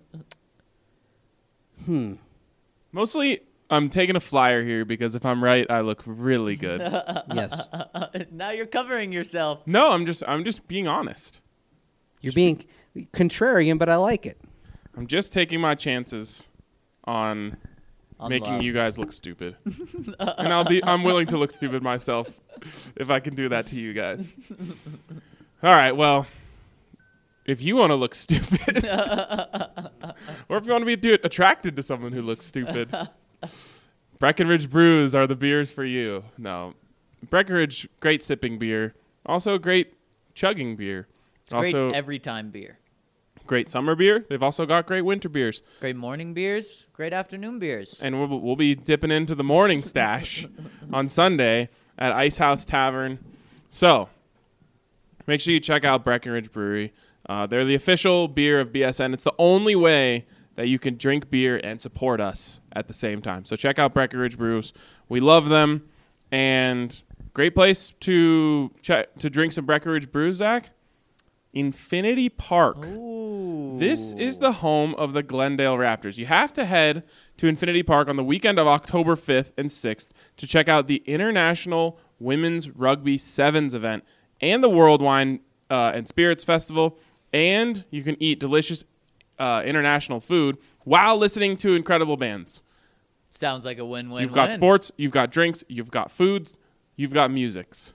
Mostly, I'm taking a flyer here because if I'm right, I look really good. yes. Now you're covering yourself. No, I'm just I'm just being honest. You're being contrarian, but I like it. I'm just taking my chances on, On making love. you guys look stupid. And I'll be I'm willing to look stupid myself if I can do that to you guys. All right, well, if you want to look stupid or if you want to be do- attracted to someone who looks stupid, Breckenridge Brews are the beers for you. No. Breckenridge, great sipping beer. Also great chugging beer. It's also great every time beer. great summer beer. They've also got great winter beers. Great morning beers. Great afternoon beers. And we'll, we'll be dipping into the morning stash on Sunday at Ice House Tavern. So make sure you check out Breckenridge Brewery. Uh, they're the official beer of B S N. It's the only way that you can drink beer and support us at the same time. So check out Breckenridge Brews. We love them. And great place to check, to drink some Breckenridge Brews, Zach. Infinity Park. Ooh. This is the home of the Glendale Raptors. You have to head to Infinity Park on the weekend of October fifth and sixth to check out the International Women's Rugby Sevens event and the World Wine uh, and Spirits Festival. And you can eat delicious uh, international food while listening to incredible bands. Sounds like a win-win. You've got sports, you've got drinks, you've got foods, you've got musics.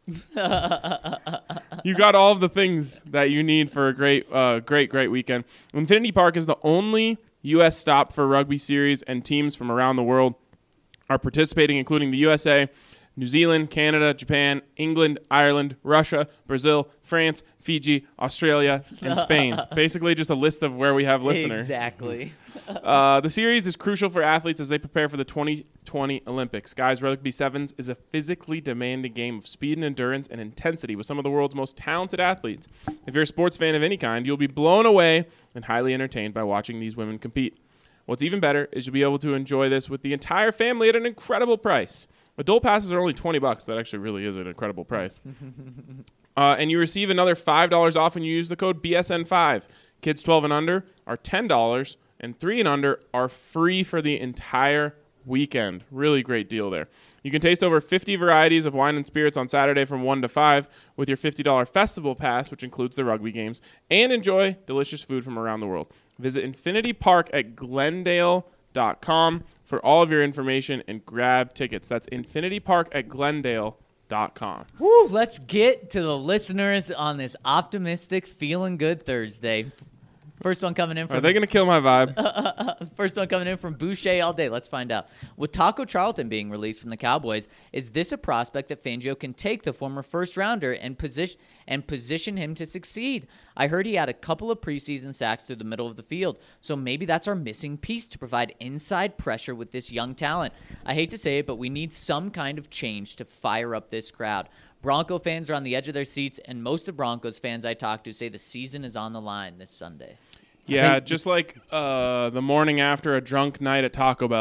You got all of the things that you need for a great, uh, great, great weekend. Infinity Park is the only U S stop for rugby series, and teams from around the world are participating, including the U S A, New Zealand, Canada, Japan, England, Ireland, Russia, Brazil, France, Fiji, Australia, and Spain. Basically just a list of where we have listeners. Exactly. Uh, the series is crucial for athletes as they prepare for the twenty twenty Olympics. Guys, Rugby Sevens is a physically demanding game of speed and endurance and intensity with some of the world's most talented athletes. If you're a sports fan of any kind, you'll be blown away and highly entertained by watching these women compete. What's even better is you'll be able to enjoy this with the entire family at an incredible price. Adult passes are only twenty bucks. That actually really is an incredible price. uh, and you receive another five dollars off when you use the code B S N five. Kids twelve and under are ten dollars, and three and under are free for the entire weekend. Really great deal there. You can taste over fifty varieties of wine and spirits on Saturday from one to five with your fifty dollars festival pass, which includes the rugby games, and enjoy delicious food from around the world. Visit Infinity Park at Glendale dot com for all of your information and grab tickets. That's Infinity Park at Glendale dot com. Woo, let's get to the listeners on this optimistic, feeling good Thursday. First one coming in from Are they going to kill my vibe? First one coming in from Boucher all day. Let's find out. With Taco Charlton being released from the Cowboys, is this a prospect that Fangio can take the former first rounder and position and position him to succeed? I heard he had a couple of preseason sacks through the middle of the field, so maybe that's our missing piece to provide inside pressure with this young talent. I hate to say it, but we need some kind of change to fire up this crowd. Bronco fans are on the edge of their seats, and most of Broncos fans I talk to say the season is on the line this Sunday. Yeah, just like uh, the morning after a drunk night at Taco Bell,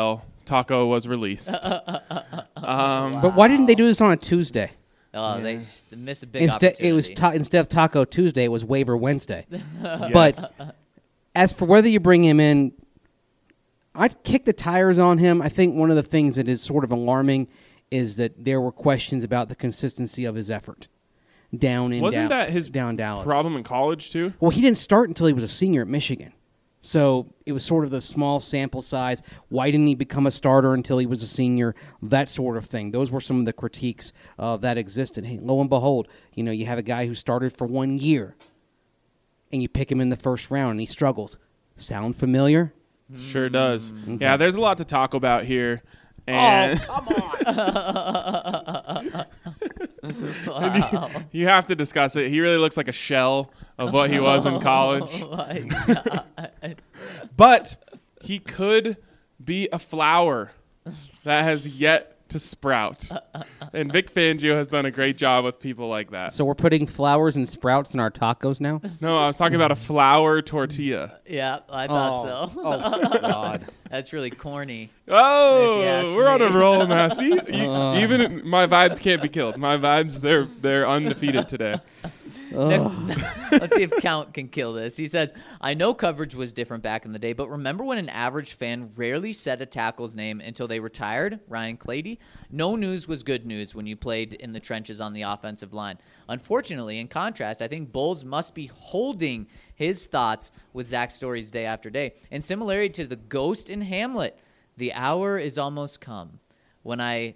Taco was released. um, But why didn't they do this on a Tuesday? Oh, they Yes. s- missed a big Instead, opportunity. it was ta- instead of Taco Tuesday, it was Waiver Wednesday. yes. But as for whether you bring him in, I'd kick the tires on him. I think one of the things that is sort of alarming is that there were questions about the consistency of his effort down in wasn't Dal- that his down Dallas problem in college too? Well, he didn't start until he was a senior at Michigan. So it was sort of the small sample size. Why didn't he become a starter until he was a senior? That sort of thing. Those were some of the critiques uh, that existed. Hey, lo and behold, you know, you have a guy who started for one year, and you pick him in the first round, and he struggles. Sound familiar? Sure does. Mm. Yeah, there's a lot to talk about here. And come on! Wow. you have to discuss it. He really looks like a shell of what he was in college. Oh my God. But he could be a flower that has yet to sprout. And Vic Fangio has done a great job with people like that. So we're putting flowers and sprouts in our tacos now? No, I was talking about a flour tortilla. Yeah, I thought so. Oh, God. That's really corny. Oh, If you ask we're on a me. roll now. See, you- Uh. even my vibes can't be killed. My vibes, they're they're undefeated today. Next, let's see if Count can kill this. He says, I know coverage was different back in the day, but remember when an average fan rarely said a tackle's name until they retired? Ryan Clady? No news was good news when you played in the trenches on the offensive line. Unfortunately, in contrast, I think Bowles must be holding his thoughts with Zach Story's day after day. In similarity to the ghost in Hamlet, the hour is almost come when I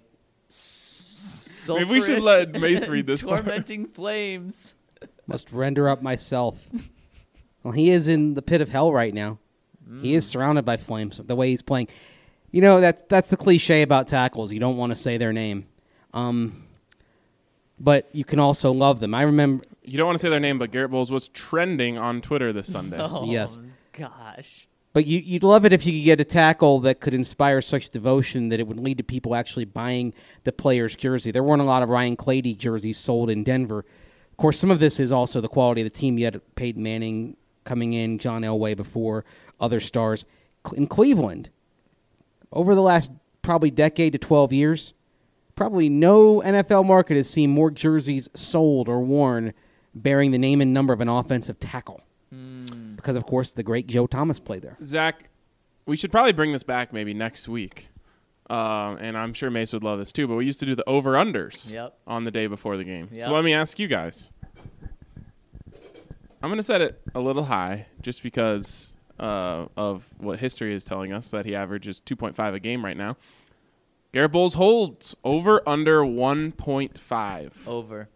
s- Maybe we should let Mace read this part. tormenting flames. Must render up myself. Well, he is in the pit of hell right now. He is surrounded by flames, the way he's playing. You know, that's, that's the cliche about tackles. You don't want to say their name. Um, but you can also love them. I remember... You don't want to say their name, but Garrett Bowles was trending on Twitter this Sunday. Oh, Yes. gosh. But you, you'd love it if you could get a tackle that could inspire such devotion that it would lead to people actually buying the player's jersey. There weren't a lot of Ryan Clady jerseys sold in Denver. Of course, some of this is also the quality of the team. You had Peyton Manning coming in, John Elway before, other stars. In Cleveland, over the last probably decade to twelve years, probably no N F L market has seen more jerseys sold or worn bearing the name and number of an offensive tackle. Because, of course, the great Joe Thomas played there. Zach, we should probably bring this back maybe next week. Um, and I'm sure Mace would love this too, but we used to do the over-unders Yep. on the day before the game. Yep. So let me ask you guys. I'm going to set it a little high just because uh, of what history is telling us, that he averages two point five a game right now. Garrett Bowles holds over under one point five. Over.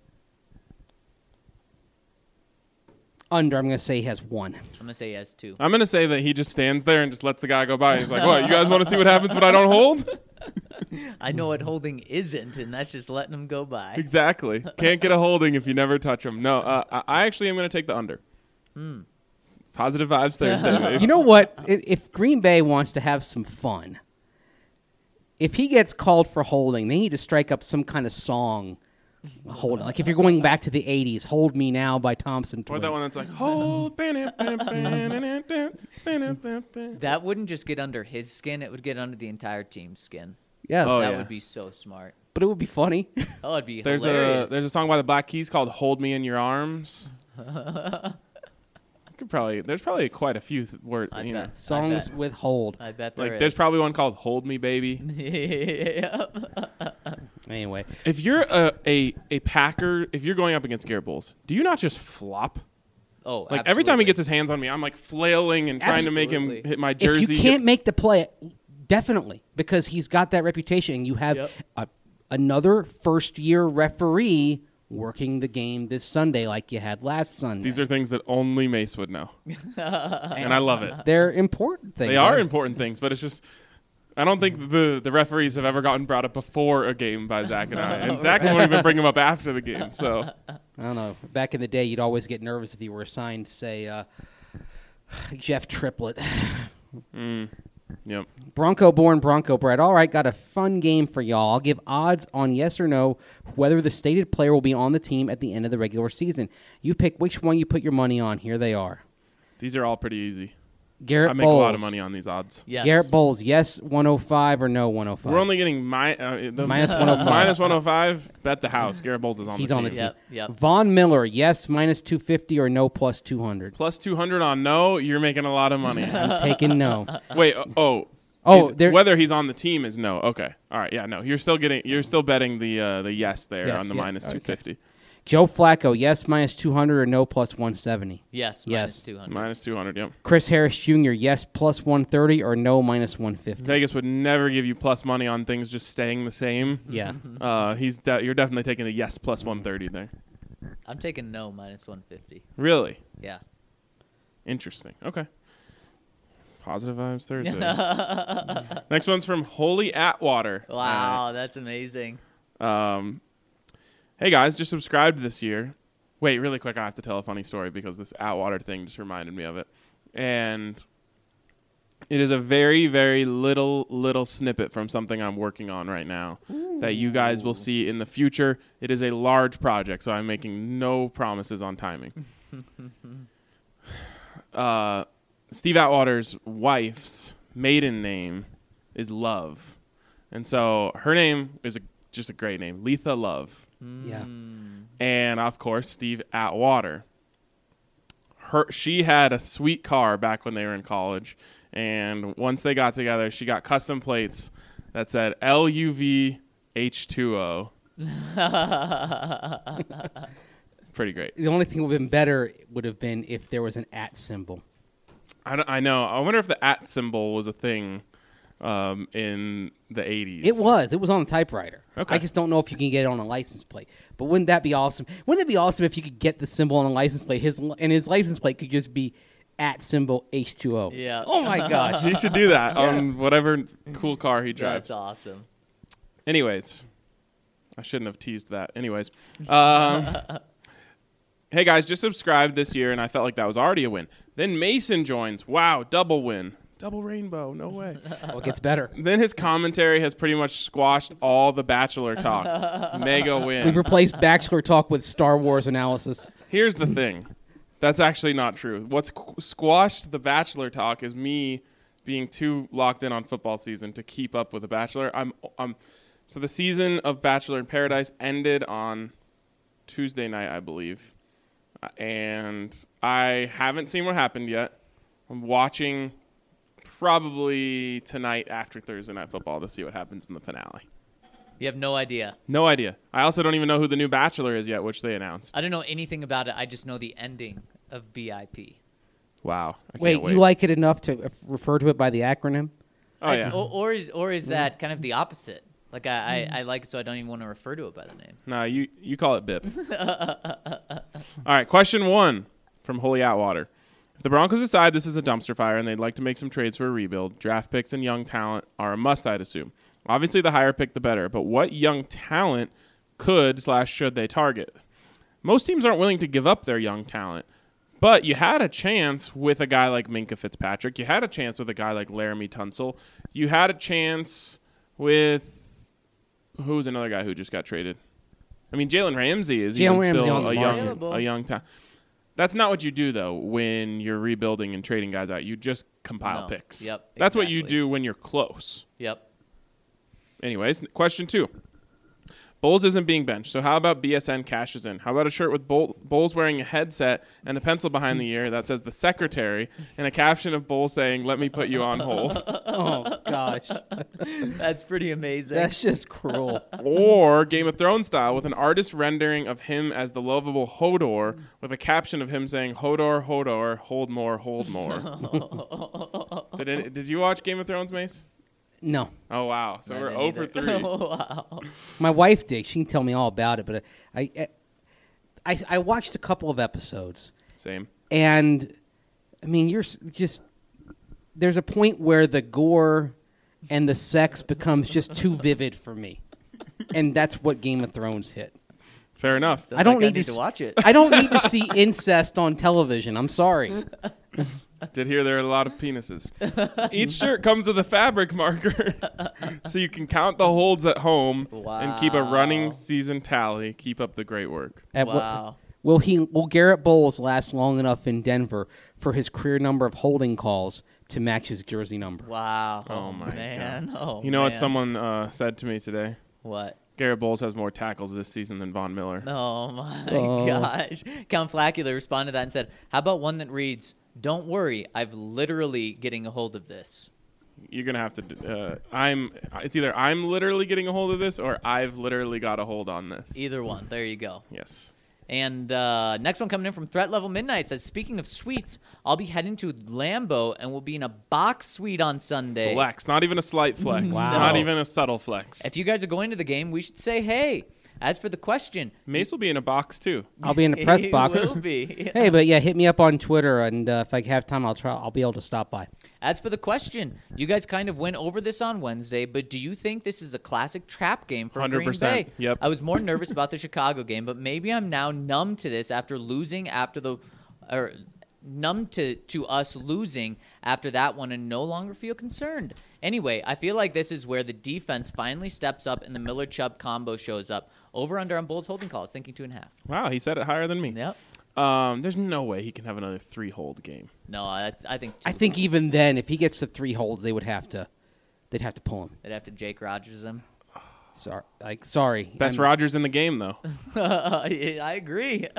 Under, I'm going to say he has one. I'm going to say yes, too. I'm going to say that he just stands there and just lets the guy go by. He's like, what, you guys want to see what happens when I don't hold? I know what holding isn't, and that's just letting them go by. Exactly. Can't get a holding if you never touch them. No, uh, I I actually am going to take the under. Hmm. Positive vibes Thursday, baby. You know what? If, if Green Bay wants to have some fun, if he gets called for holding, they need to strike up some kind of song. Hold like if you're going back to the eighties, "Hold Me Now" by Thompson Or Twins. that one that's like, hold. That wouldn't just get under his skin. It would get under the entire team's skin. Yes, Oh, that yeah. would be so smart. but it would be funny. Oh, it'd be There's hilarious. a there's a song by the Black Keys called "Hold Me in Your Arms." Could probably there's probably quite a few th- words. I You know, bet. Songs I bet. with hold. I bet there like is. there's probably one called "Hold Me, Baby." Yep. Anyway, If you're a, a a Packer, if you're going up against Garrett Bowles, do you not just flop? Oh, Like every time he absolutely. gets his hands on me, I'm like flailing and trying to make him Absolutely. hit my if jersey. you can't make the play, definitely because he's got that reputation. And you have Yep. a, another first-year referee working the game this Sunday, like you had last Sunday. These are things that only Mace would know, and I love it. They're important things. They are I- important things, but it's just I don't think the the referees have ever gotten brought up before a game by Zach and I, and Zach won't even bring them up after the game. So I don't know. Back in the day, you'd always get nervous if you were assigned, say, uh, Jeff Triplett. yep. Bronco born, Bronco bred. All right, got a fun game for y'all. I'll give odds on yes or no whether the stated player will be on the team at the end of the regular season. You pick which one you put your money on. Here they are. These are all pretty easy. Garrett I make Bowles. a lot of money on these odds. Yes. Garrett Bowles, yes, one oh five or no, one oh five. We're only getting mi- uh, the Minus one oh five. minus one oh five. Bet the house. Garrett Bowles is on He's the on team. the team. Yep. Yep. Von Miller, yes, minus two fifty or no, plus two hundred. Plus two hundred on no. You're making a lot of money. I'm taking no. Wait. uh, Oh. Oh, It's- there- whether he's on the team is no. Okay. All right. Yeah. No. You're still getting. You're still betting the uh, the yes there Yes, on the yeah, minus okay. two fifty. Joe Flacco, yes, minus two hundred or no, plus one seventy. Yes. Yes. Minus two hundred. Minus two hundred. Yep. Chris Harris Junior, yes, plus one thirty or no, minus one fifty. Vegas would never give you plus money on things just staying the same. Yeah. Uh, he's de- you're definitely taking the yes plus one thirty there. I'm taking no minus one fifty. Really Yeah. interesting. Okay. Positive vibes Thursday. Next one's from Holy Atwater. Wow, that's amazing. Um, hey guys, just subscribed this year. Wait, really quick, I have to tell a funny story because this Atwater thing just reminded me of it. And it is a very, very little, little snippet from something I'm working on right now that you guys will see in the future. It is a large project, so I'm making no promises on timing. uh, Steve Atwater's wife's maiden name is Love. And so her name is a, just a great name, Letha Love. Yeah. And, of course, Steve Atwater. Her, she had a sweet car back when they were in college. And once they got together, she got custom plates that said L U V H two O. Pretty great. The only thing would have been better would have been if there was an at symbol. I, don't- I know. I wonder if the at symbol was a thing um, in the eighties. It was. It was on a typewriter. Okay. I just don't know if you can get it on a license plate. But wouldn't that be awesome? Wouldn't it be awesome if you could get the symbol on a license plate? His and his license plate could just be at symbol H two O. Yeah. Oh my gosh. He should do that Yes. on whatever cool car he drives. That's awesome. Anyways, I shouldn't have teased that. Anyways, um, hey guys, just subscribed this year, and I felt like that was already a win. Then Mason joins. Wow, double win, double rainbow. No way. Well, it gets better. Then his commentary has pretty much squashed all the Bachelor talk. Mega We've win. replaced Bachelor talk with Star Wars analysis. Here's the thing. That's actually not true. What's qu- squashed the Bachelor talk is me being too locked in on football season to keep up with the Bachelor. I'm, I'm, so the season of Bachelor in Paradise ended on Tuesday night, I believe. Uh, and I haven't seen what happened yet. I'm watching probably tonight after Thursday Night Football to see what happens in the finale. You have no idea. No idea. I also don't even know who the new Bachelor is yet, which they announced. I don't know anything about it. I just know the ending of B I P. Wow. I can't Wait, wait. you like it enough to f- refer to it by the acronym? Oh, yeah. Or, or is or is that kind of the opposite? Like I, I, I like it, so I don't even want to refer to it by the name. No, you, you call it B I P. All right, question one from Holy Atwater. If the Broncos decide this is a dumpster fire and they'd like to make some trades for a rebuild, draft picks and young talent are a must, I'd assume. Obviously, the higher pick, the better. But what young talent could slash should they target? Most teams aren't willing to give up their young talent. But you had a chance with a guy like Minka Fitzpatrick. You had a chance with a guy like Laramie Tunsil. You had a chance with... Who's another guy who just got traded? I mean, Jalen Ramsey is Jalen even Ramsey still on the a market. young, Available. a young talent. That's not what you do, though, when you're rebuilding and trading guys out. You just compile No. picks. Yep, That's what you exactly. do when you're close. Yep. Anyways, question two. Bowles isn't being benched, so how about B S N cashes in? How about a shirt with Bowl- Bowles wearing a headset and a pencil behind the ear that says the secretary and a caption of Bowles saying, "Let me put you on hold." Oh, gosh. That's pretty amazing. That's just cruel. Or Game of Thrones style with an artist rendering of him as the lovable Hodor with a caption of him saying, "Hodor, Hodor, hold more, hold more." did, it, did you watch Game of Thrones, Mace? No. Oh, wow. So I we're didn't zero for either. three. Wow. My wife did. She can tell me all about it, but I, I, I watched a couple of episodes, Same. and I mean, you're s- just there's a point where the gore and the sex becomes just too vivid for me, and that's what Game of Thrones hit. Fair enough. Sounds I don't like need I need to to s- watch it. I don't need to see incest on television. I'm sorry. Did hear there are a lot of penises. Each shirt comes with a fabric marker, so you can count the holds at home and keep a running Wow. season tally. Keep up the great work. At what- Wow. Will he? Will Garrett Bowles last long enough in Denver for his career number of holding calls to match his jersey number? Wow. Oh, my man. Oh, You know what man. someone uh, said to me today? What? Garrett Bowles has more tackles this season than Von Miller. Oh, my Oh. gosh. Count Flacula responded to that and said, how about one that reads, don't worry, I've literally getting a hold of this. You're gonna have to. d- Uh, I'm. It's either I'm literally getting a hold of this, or I've literally got a hold on this. Either one. There you go. Yes. And uh, next one coming in from Threat Level Midnight says, speaking of suites, I'll be heading to Lambeau and will be in a box suite on Sunday. Flex. Not even a slight flex. Wow. Not even a subtle flex. If you guys are going to the game, we should say hey. As for the question, Mace will be in a box too. I'll be in the press he box. will be. Hey, but yeah, hit me up on Twitter, and uh, if I have time, I'll try. I'll be able to stop by. As for the question, you guys kind of went over this on Wednesday, but do you think this is a classic trap game for one hundred Green percent. Bay? Yep. I was more nervous about the Chicago game, but maybe I'm now numb to this after losing after the or numb to, to us losing after that one and no longer feel concerned. Anyway, I feel like this is where the defense finally steps up and the Miller Chubb combo shows up. Over under on Bolts holding calls, thinking two and a half. Wow, he said it higher than me. Yep. Um, there's no way he can have another three hold game. No, that's I think two. I think even then, if he gets the three holds, they would have to. They'd have to pull him. They'd have to Jake Rogers him. Sorry, like sorry. Best I'm- Rodgers in the game though. I agree.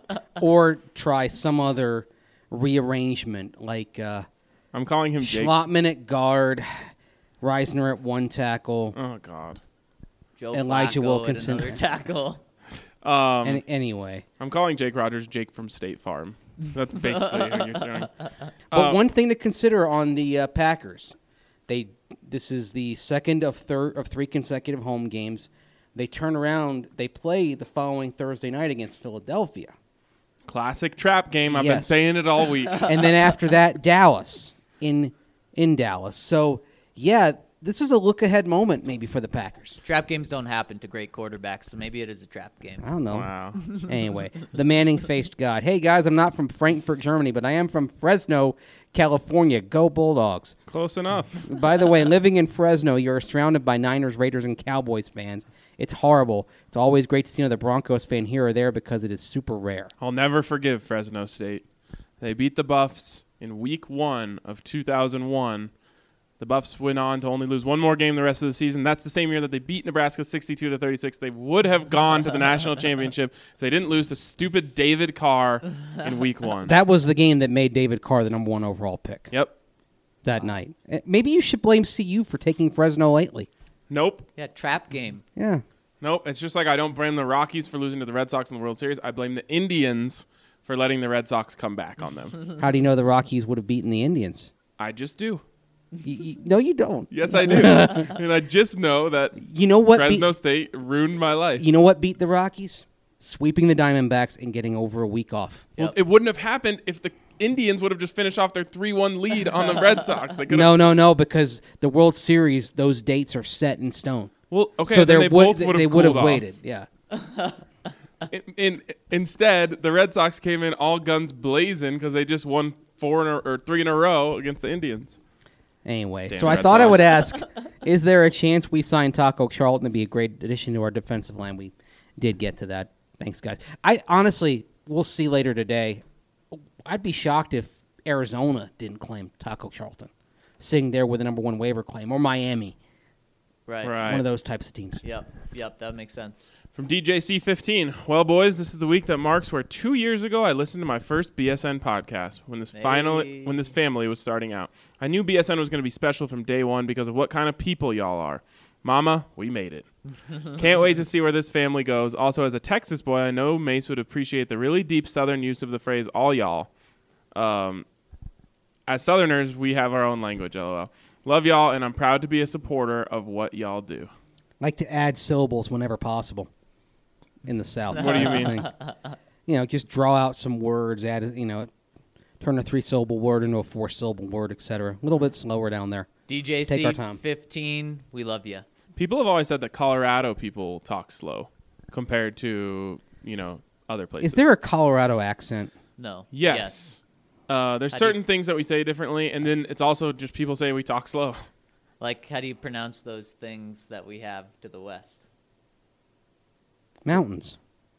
or try some other rearrangement, like uh, I'm calling him Jake. Schlottman at guard, Reisner at one tackle. Oh God. Joe Elijah Flacco Wilkinson. at another tackle. Um, Any, anyway, I'm calling Jake Rogers Jake from State Farm. That's basically how you're throwing. but Uh, one thing to consider on the uh, Packers, they this is the second of third of three consecutive home games. They turn around. They play the following Thursday night against Philadelphia, Classic trap game. I've been Yes. saying it all week. and then after that, Dallas in in Dallas. So yeah, this is a look ahead moment maybe for the Packers. Trap games don't happen to great quarterbacks, so maybe it is a trap game. I don't know. Wow. Anyway, the Manning-faced God. Hey, guys, I'm not from Frankfurt, Germany, but I am from Fresno, California. Go Bulldogs. Close enough. By the way, living in Fresno, you're surrounded by Niners, Raiders, and Cowboys fans. It's horrible. It's always great to see another Broncos fan here or there because it is super rare. I'll never forgive Fresno State. They beat the Buffs in week one of two thousand one. The Buffs went on to only lose one more game the rest of the season. That's the same year that they beat Nebraska sixty-two to thirty-six. They would have gone to the national championship if they didn't lose to stupid David Carr in week one. That was the game that made David Carr the number one overall pick Yep. that night. Eh, Maybe you should blame C U for taking Fresno lately. Nope. Yeah, trap game. Yeah. Nope. It's just like I don't blame the Rockies for losing to the Red Sox in the World Series. I blame the Indians for letting the Red Sox come back on them. How do you know the Rockies would have beaten the Indians? I just do. You, you, no, you don't. Yes, I do. And I just know that You know what? Fresno beat, State ruined my life. you know what beat the Rockies? Sweeping the Diamondbacks and getting over a week off. Well, Yep. it wouldn't have happened if the Indians would have just finished off their three one lead on the Red Sox. They could No, have. no, no, because the World Series, those dates are set in stone. Well, okay, so then there they would both would have they would have cooled off. waited. Yeah. In, in, instead, the Red Sox came in all guns blazing because they just won four in a, or three in a row against the Indians. Anyway, Damn so I Red thought I Sox. would ask: is there a chance we sign Taco Charlton to be a great addition to our defensive line? We did get to that. Thanks, guys. I honestly, we'll see later today. I'd be shocked if Arizona didn't claim Taco Charlton, sitting there with a number one waiver claim, or Miami, Right. Right. one of those types of teams. Yep. Yep. That makes sense. From D J C fifteen. Well, boys, this is the week that marks where two years ago I listened to my first B S N podcast when this final Hey. when this family was starting out. I knew B S N was going to be special from day one because of what kind of people y'all are. Mama, we made it. Can't wait to see where this family goes. Also, as a Texas boy, I know Mace would appreciate the really deep Southern use of the phrase "all y'all." Um, as Southerners, we have our own language. LOL. Love y'all, and I'm proud to be a supporter of what y'all do. Like to add syllables whenever possible in the South. What do you That's the mean? thing. You know, just draw out some words, add, you know, turn a three-syllable word into a four-syllable word, et cetera. A little bit slower down there. D J Take C our time. fifteen. We love you. People have always said that Colorado people talk slow compared to, you know, other places. Is there a Colorado accent? No. Yes. Uh, there's How do you- certain things that we say differently, and then it's also just people say we talk slow. Like, how do you pronounce those things that we have to the west? Mountains.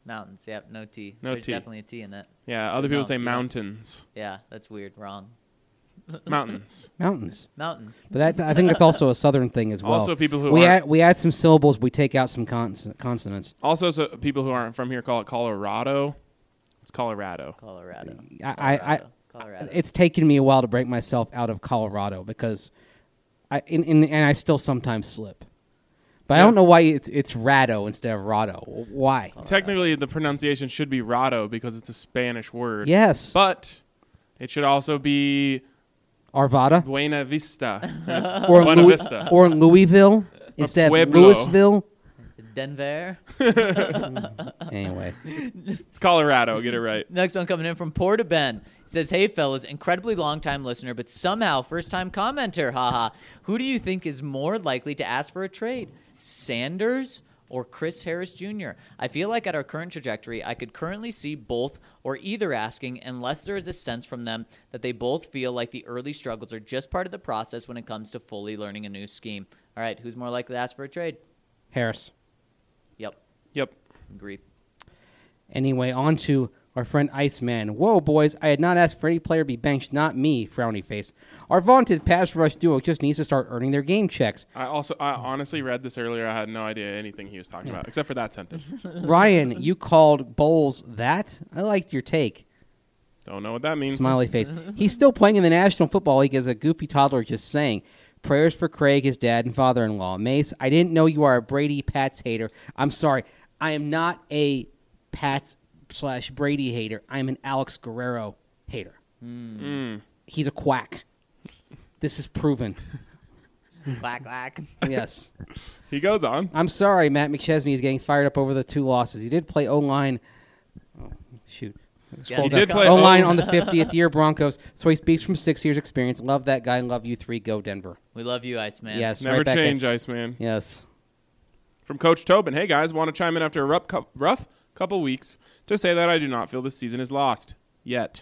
Mountains. Yep. No T. No There's T. definitely a T in that. Yeah, other people Mount- say yeah. mountains. Yeah, that's weird. Wrong. Mountains. Mountains. Mountains. But that I think that's also a southern thing as well. Also, people who we aren't- add we add some syllables, we take out some cons- consonants. Also, so people who aren't from here call it Colorado. It's Colorado. Colorado. I, I, I Colorado. Colorado. it's taken me a while to break myself out of Colorado because I in, in, and I still sometimes slip. But I Yeah. don't know why it's it's Rado instead of Rado. Why? Technically, the pronunciation should be Rado because it's a Spanish word. Yes. But it should also be Arvada Buena Vista. And it's or Buena Louis- Vista. or Louisville instead of Pueblo. Louisville. Denver. Anyway, It's Colorado. Get it right. Next one coming in from Porta Ben. He says, "Hey fellas, incredibly long time listener, but somehow first time commenter. Haha. Who do you think is more likely to ask for a trade? Sanders or Chris Harris Junior? I feel like at our current trajectory, I could currently see both or either asking, unless there is a sense from them that they both feel like the early struggles are just part of the process when it comes to fully learning a new scheme. All right, who's more likely to ask for a trade? Harris. Yep, Yep. agree. Anyway, on to our friend Iceman. Whoa, boys, I had not asked for any player to be benched, not me, frowny face. Our vaunted pass rush duo just needs to start earning their game checks. I also, I honestly read this earlier. I had no idea anything he was talking about, except for that sentence. Ryan, you called Bowles that? I liked your take. Don't know what that means. Smiley face. He's still playing in the National Football League as a goofy toddler just saying. Prayers for Craig, his dad, and father-in-law. Mace, I didn't know you are a Brady Pats hater. I'm sorry. I am not a Pats slash Brady hater. I'm an Alex Guerrero hater. Mm. He's a quack. This is proven. Quack, quack. Yes. He goes on. I'm sorry Matt McChesney is getting fired up over the two losses. He did play O-line. Oh, shoot. Yeah, He did play O-line O- on the fiftieth year Broncos, so he speaks from six years experience. Love that guy. Love you three. Go Denver. We love you, Iceman. Yes. Never right back at- change, Iceman. Yes. From Coach Tobin. Hey, guys, want to chime in after a rough, cou- rough couple weeks to say that I do not feel this season is lost. Yet.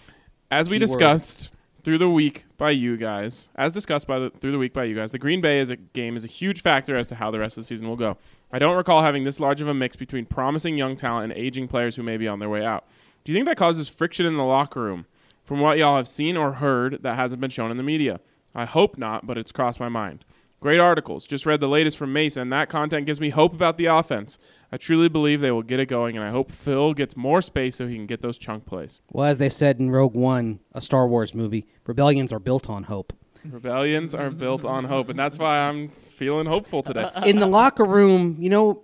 As we Keyword. discussed through the week by you guys, as discussed by the, through the week by you guys, the Green Bay is a game is a huge factor as to how the rest of the season will go. I don't recall having this large of a mix between promising young talent and aging players who may be on their way out. Do you think that causes friction in the locker room? From what y'all have seen or heard that hasn't been shown in the media. I hope not, but it's crossed my mind. Great articles. Just read the latest from Mace, and that content gives me hope about the offense. I truly believe they will get it going, and I hope Phil gets more space so he can get those chunk plays. Well, as they said in Rogue One, a Star Wars movie, rebellions are built on hope. Rebellions are built on hope, and that's why I'm feeling hopeful today. In the locker room, you know,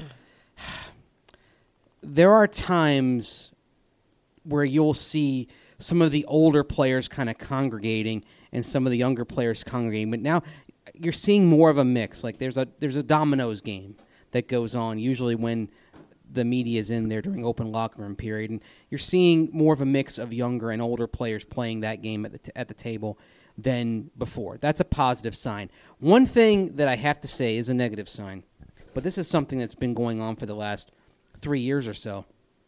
there are times where you'll see some of the older players kind of congregating and some of the younger players congregating. But now you're seeing more of a mix. Like there's a there's a dominoes game that goes on usually when the media is in there during open locker room period, and you're seeing more of a mix of younger and older players playing that game at the t- at the table than before. That's a positive sign. One thing that I have to say is a negative sign, but this is something that's been going on for the last three years or so.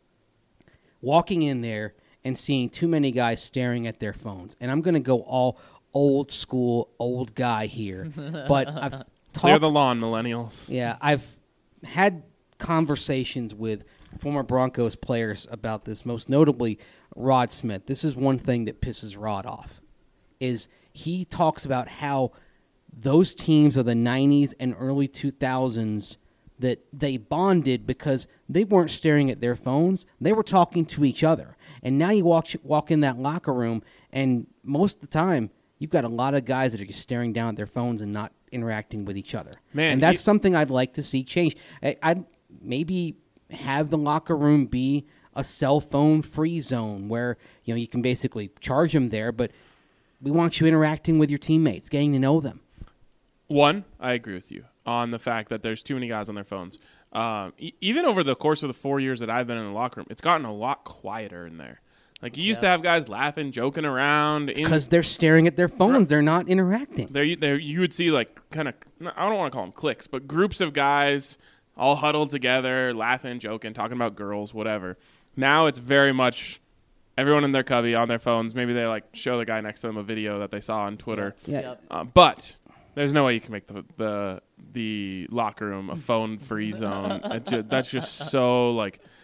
Walking in there and seeing too many guys staring at their phones. And I'm going to go all old school, old guy here. But I've Clear talked. the lawn, millennials. Yeah, I've had conversations with former Broncos players about this, most notably Rod Smith. This is one thing that pisses Rod off, is he talks about how those teams of the nineties and early two thousands that they bonded because they weren't staring at their phones. They were talking to each other. And now you walk walk in that locker room, and most of the time, you've got a lot of guys that are just staring down at their phones and not interacting with each other. Man, and that's he- something I'd like to see change. I, I'd maybe have the locker room be a cell phone free zone where you know you can basically charge them there, but we want you interacting with your teammates, getting to know them. One, I agree with you on the fact that there's too many guys on their phones. Um, e- even over the course of the four years that I've been in the locker room, it's gotten a lot quieter in there. Like you used to have guys laughing, joking around. in- Because they're staring at their phones. They're not interacting. There, there, you would see like kind of. I don't want to call them cliques, but groups of guys all huddled together, laughing, joking, talking about girls, whatever. Now it's very much everyone in their cubby on their phones. Maybe they like show the guy next to them a video that they saw on Twitter. Yeah. Yep. Uh, but there's no way you can make the the, the locker room a phone free zone. It ju- that's just so like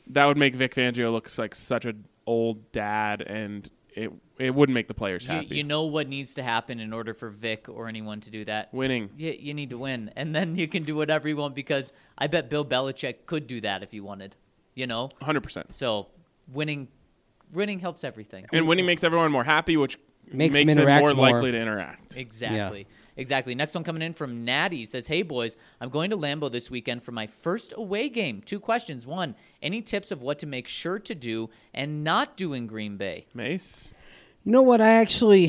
that would make Vic Fangio look like such an old dad, and it it wouldn't make the players You, happy. you know what needs to happen in order for Vic or anyone to do that? Winning. You, you need to win, and then you can do whatever you want, because I bet Bill Belichick could do that if he wanted, you know? one hundred percent. So winning winning helps everything. And winning makes everyone more happy, which Makes makes, them them interact more, more. likely to interact. Exactly. Exactly. Next one coming in from Natty says, "Hey boys, I'm going to Lambeau this weekend for my first away game. Two questions. One, any tips of what to make sure to do and not do in Green Bay?" Mace? You know what? I actually,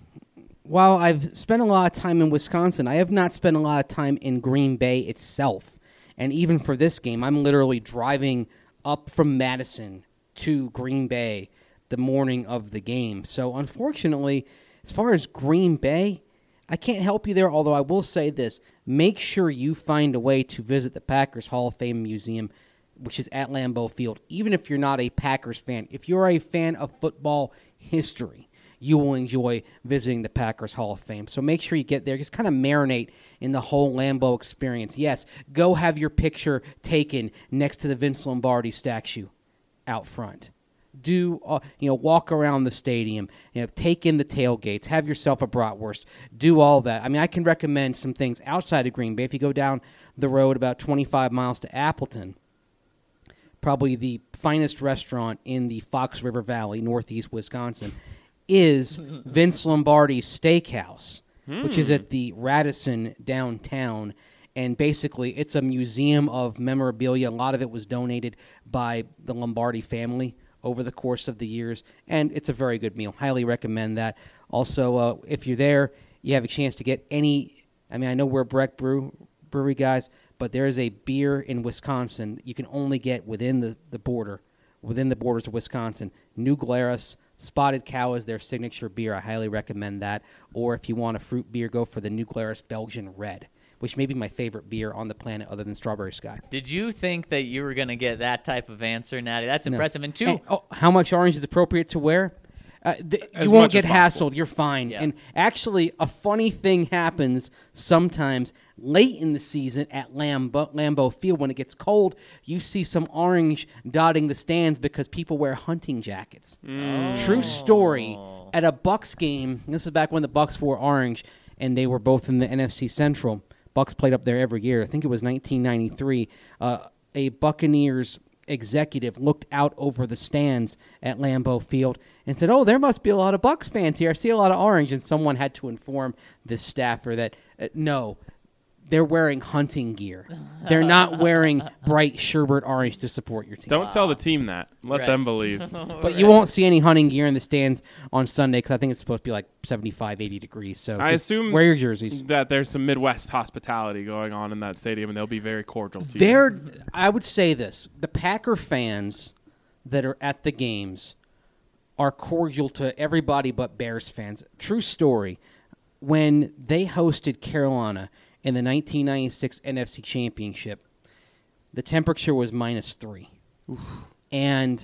while I've spent a lot of time in Wisconsin, I have not spent a lot of time in Green Bay itself. And even for this game, I'm literally driving up from Madison to Green Bay the morning of the game. So unfortunately, as far as Green Bay, I can't help you there, although I will say this. Make sure you find a way to visit the Packers Hall of Fame Museum, which is at Lambeau Field, even if you're not a Packers fan. If you're a fan of football history, you will enjoy visiting the Packers Hall of Fame. So make sure you get there. Just kind of marinate in the whole Lambeau experience. Yes, go have your picture taken next to the Vince Lombardi statue out front. Do uh, you know walk around the stadium, you know, take in the tailgates, have yourself a bratwurst, do all that. I mean, I can recommend some things outside of Green Bay. If you go down the road about twenty-five miles to Appleton, probably the finest restaurant in the Fox River Valley, northeast Wisconsin, is Vince Lombardi's Steakhouse, hmm. which is at the Radisson downtown. And basically, it's a museum of memorabilia. A lot of it was donated by the Lombardi family over the course of the years, and it's a very good meal. Highly recommend that. Also, uh, if you're there, you have a chance to get any, I mean, I know we're Breck Brew, Brewery guys, but there is a beer in Wisconsin that you can only get within the, the border, within the borders of Wisconsin. New Glarus Spotted Cow is their signature beer. I highly recommend that. Or if you want a fruit beer, go for the New Glarus Belgian Red, which may be my favorite beer on the planet other than Strawberry Sky. Did you think that you were going to get that type of answer, Natty? That's No. impressive. And two, And, oh, how much orange is appropriate to wear? Uh, th- As you won't much as get possible. hassled. You're fine. Yeah. And actually, a funny thing happens sometimes late in the season at Lambeau, Lambeau Field when it gets cold. You see some orange dotting the stands because people wear hunting jackets. True story. At a Bucks game, this was back when the Bucks wore orange, and they were both in the N F C Central. Bucks played up there every year. I think it was nineteen ninety-three. Uh, a Buccaneers executive looked out over the stands at Lambeau Field and said, "Oh, there must be a lot of Bucks fans here. I see a lot of orange." And someone had to inform this staffer that, uh, no, they're wearing hunting gear. They're not wearing bright sherbet orange to support your team. Don't tell the team that. Let Right. them believe. But you won't see any hunting gear in the stands on Sunday because I think it's supposed to be like seventy-five, eighty degrees. So I just assume wear your jerseys. that there's some Midwest hospitality going on in that stadium, and they'll be very cordial to you. They're, I would say this: the Packer fans that are at the games are cordial to everybody but Bears fans. True story. When they hosted Carolina in the nineteen ninety-six N F C Championship, the temperature was minus three. Oof. And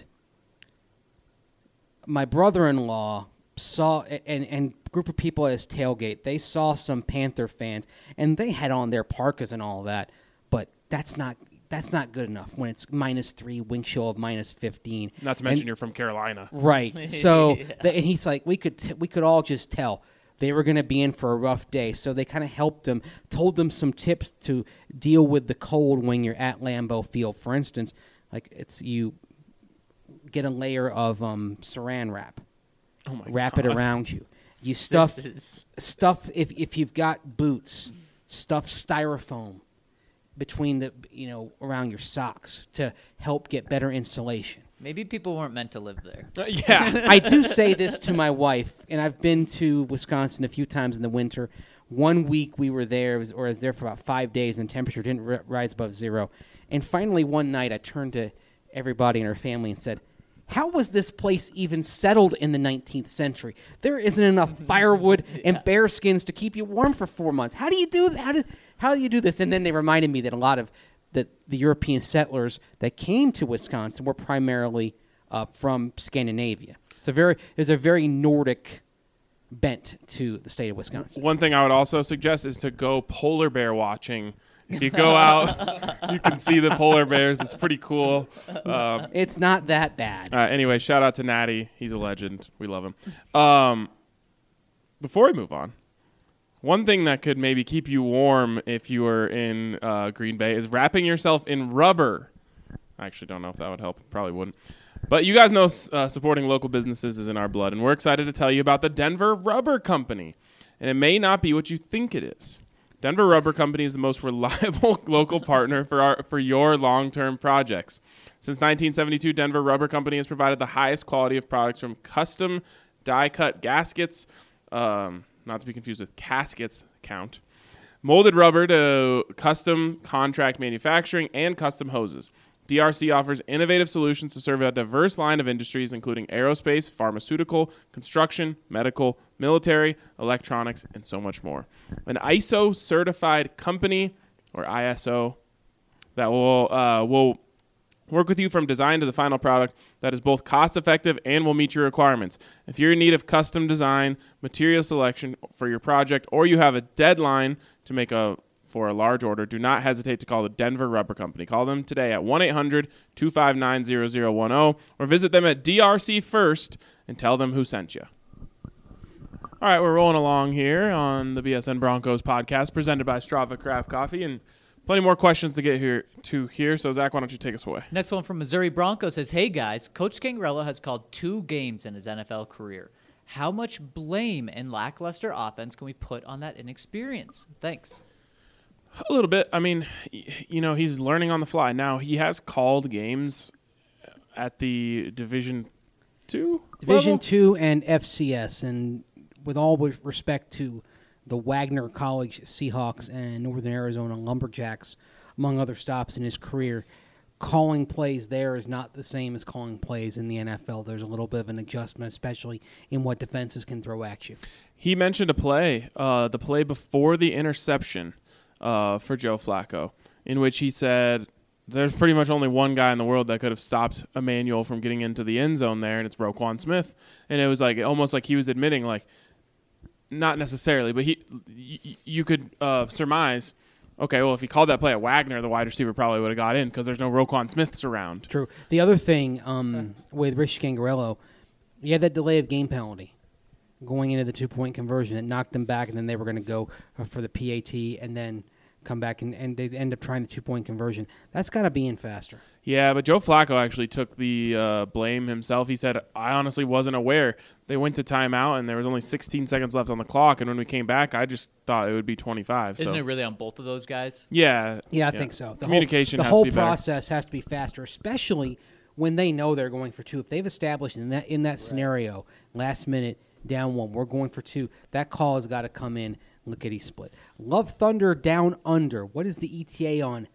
my brother-in-law saw, and, and group of people at his tailgate, they saw some Panther fans, and they had on their parkas and all that, but that's not that's not good enough when it's minus three, wind chill of minus fifteen. Not to mention And- you're from Carolina. Right. So, Yeah. the, and he's like, we could t- we could all just tell they were going to be in for a rough day. So they kind of helped them, told them some tips to deal with the cold when you're at Lambeau Field. For instance, like it's you get a layer of um, Saran wrap, Oh my wrap God. it around you. You stuff This is- stuff if if you've got boots, stuff styrofoam between the you know around your socks to help get better insulation. maybe people weren't meant to live there. Uh, yeah. I do say this to my wife, and I've been to Wisconsin a few times in the winter. One week we were there, it was, or I was there for about five days, and the temperature didn't r- rise above zero. And finally, one night, I turned to everybody in our family and said, "How was this place even settled in the nineteenth century? There isn't enough firewood and bear skins to keep you warm for four months. How do you do that? How do, how do you do this?" And then they reminded me that a lot of the, the European settlers that came to Wisconsin were primarily uh, from Scandinavia. It's a very there's a very Nordic bent to the state of Wisconsin. One thing I would also suggest is to go polar bear watching If you go out, you can see the polar bears. It's pretty cool. Um, It's not that bad. uh, anyway, shout out to Natty. He's a legend. We love him. Um, before we move on, one thing that could maybe keep you warm if you were in uh, Green Bay is wrapping yourself in rubber. I actually don't know if that would help. Probably wouldn't. But you guys know uh, supporting local businesses is in our blood, and we're excited to tell you about the Denver Rubber Company. And it may not be what you think it is. Denver Rubber Company is the most reliable local partner for our for your long-term projects. Since nineteen seventy-two, Denver Rubber Company has provided the highest quality of products from custom die-cut gaskets, um, not to be confused with caskets count, molded rubber to custom contract manufacturing, and custom hoses. D R C offers innovative solutions to serve a diverse line of industries, including aerospace, pharmaceutical, construction, medical, military, electronics, and so much more. An I S O-certified company, or I S O, that will uh, will work with you from design to the final product that is both cost-effective and will meet your requirements. If you're in need of custom design, material selection for your project, or you have a deadline to make a for a large order, do not hesitate to call the Denver Rubber Company. Call them today at one eight hundred two five nine zero zero one zero or visit them at D R C First and tell them who sent you. All right, we're rolling along here on the B S N Broncos podcast presented by Strava Craft Coffee, and plenty more questions to get here to here. So, Zach, why don't you take us away? Next one from Missouri Broncos says, hey, guys, Coach Gangarello has called two games in his N F L career. How much blame and lackluster offense can we put on that inexperience? Thanks. A little bit. I mean, you know, he's learning on the fly. Now, he has called games at the Division Two Division level? Two and F C S, and with all with respect to the Wagner College Seahawks and Northern Arizona Lumberjacks, among other stops in his career, calling plays there is not the same as calling plays in the N F L. There's a little bit of an adjustment, especially in what defenses can throw at you. He mentioned a play, uh, the play before the interception uh, for Joe Flacco, in which he said there's pretty much only one guy in the world that could have stopped Emmanuel from getting into the end zone there, and it's Roquan Smith. And it was like almost like he was admitting, like, not necessarily, but he, y- you could uh, surmise, okay, well, if he called that play at Wagner, the wide receiver probably would have got in because there's no Roquan Smiths around. True. The other thing um, with Rich Gangarello, he had that delay of game penalty going into the two-point conversion that knocked them back, and then they were going to go for the P A T and then come back, and, and they end up trying the two-point conversion. That's got to be in faster. Yeah, but Joe Flacco actually took the uh, blame himself. He said, I honestly wasn't aware. They went to timeout, and there was only sixteen seconds left on the clock, and when we came back, I just thought it would be twenty-five. Isn't so. it really on both of those guys? Yeah. Yeah, I think so. The Communication whole, the has whole to be better. process has to be faster, especially when they know they're going for two. If they've established in that in that scenario, last minute, down one, we're going for two, that call has got to come in. Lickety split. Love Thunder Down Under. What is the E T A on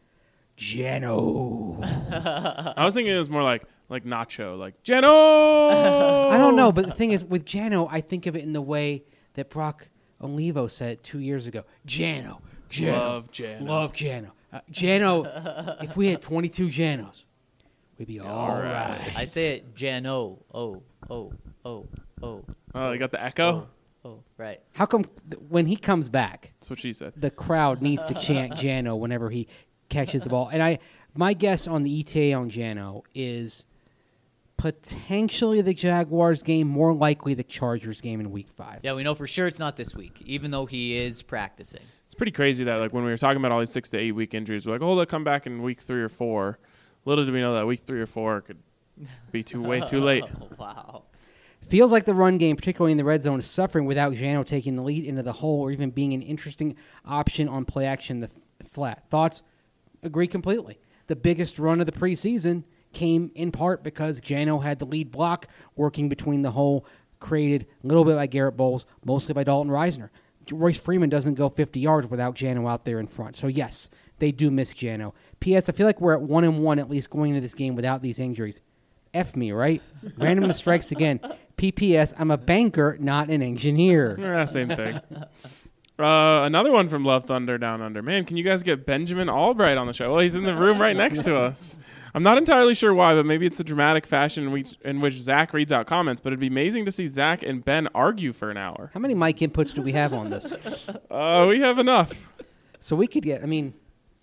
Jano? I was thinking it was more like like Nacho, like Jano. I don't know, but the thing is, with Jano, I think of it in the way that Brock Olivo said it two years ago. Jano. Jano. Love Jano. Love Jano. Uh, Jano, if we had twenty-two Janos, we'd be all right. I say it Jano. Oh, oh, oh, oh. Oh, you got the echo? Oh, right. How come th- when he comes back, That's what she said. the crowd needs to chant Jano whenever he catches the ball? And I, my guess on the E T A on Jano is potentially the Jaguars game, more likely the Chargers game in Week Five. Yeah, we know for sure it's not this week, even though he is practicing. It's pretty crazy that like when we were talking about all these six to eight week injuries, we're like, oh, they'll come back in week three or four. Little did we know that week three or four could be too way too late. Oh, wow. Feels like the run game, particularly in the red zone, is suffering without Jano taking the lead into the hole or even being an interesting option on play action the f- flat. Thoughts? Agree completely. The biggest run of the preseason came in part because Jano had the lead block working between the hole, created a little bit by Garrett Bowles, mostly by Dalton Reisner. Royce Freeman doesn't go fifty yards without Jano out there in front. So, yes, they do miss Jano. P S. I feel like we're at one and one at least going into this game without these injuries. F me, right? Randomness strikes again. P P S. I'm a banker, not an engineer. Yeah, same thing. Uh, another one from Love Thunder Down Under. Man, can you guys get Benjamin Albright on the show? Well, he's in the room right next to us. I'm not entirely sure why, but maybe it's the dramatic fashion in which, in which Zach reads out comments. But it'd be amazing to see Zach and Ben argue for an hour. How many mic inputs do we have on this? Uh, we have enough. So we could get, I mean,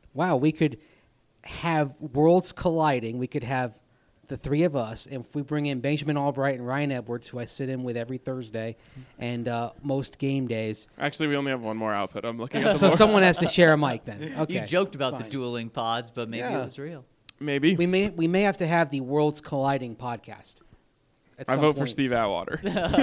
wow, we could have worlds colliding. We could have the three of us, and if we bring in Benjamin Albright and Ryan Edwards, who I sit in with every Thursday and uh, most game days. Actually, we only have one more output. I'm looking at the So board. someone has to share a mic then. Okay. You joked about fine. the dueling pods, but maybe Yeah. it was real. Maybe. We may we may have to have the worlds colliding podcast. at I some vote for point. Steve Atwater.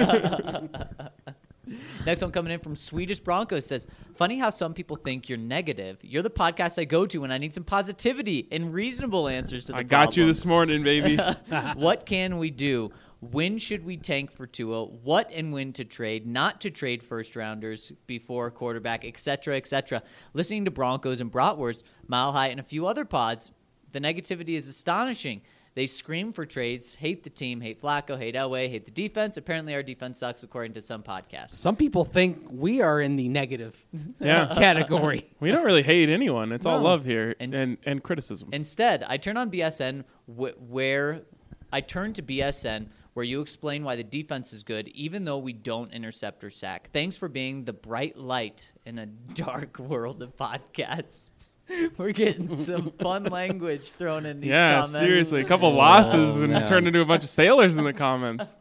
Next one coming in from Swedish Broncos says, funny how some people think you're negative. You're the podcast I go to when I need some positivity and reasonable answers to the I got you this morning, baby. What can we do? When should we tank for Tua? What and when to trade? Not to trade first rounders before quarterback, et cetera, et cetera. Listening to Broncos and Bratwurst, Mile High, and a few other pods, the negativity is astonishing. They scream for trades, hate the team, hate Flacco, hate Elway, hate the defense. Apparently our defense sucks according to some podcasts. Some people think we are in the negative Yeah. category. We don't really hate anyone. It's all No. love here And and, s- and, criticism. Instead, I turn on B S N wh- where I turn to B S N where you explain why the defense is good, even though we don't intercept or sack. Thanks for being the bright light in a dark world of podcasts. We're getting some fun language thrown in these yeah, comments. seriously. A couple losses and man. turned into a bunch of sailors in the comments.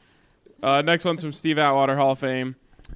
Uh, next one's from Steve Atwater, Hall of Fame.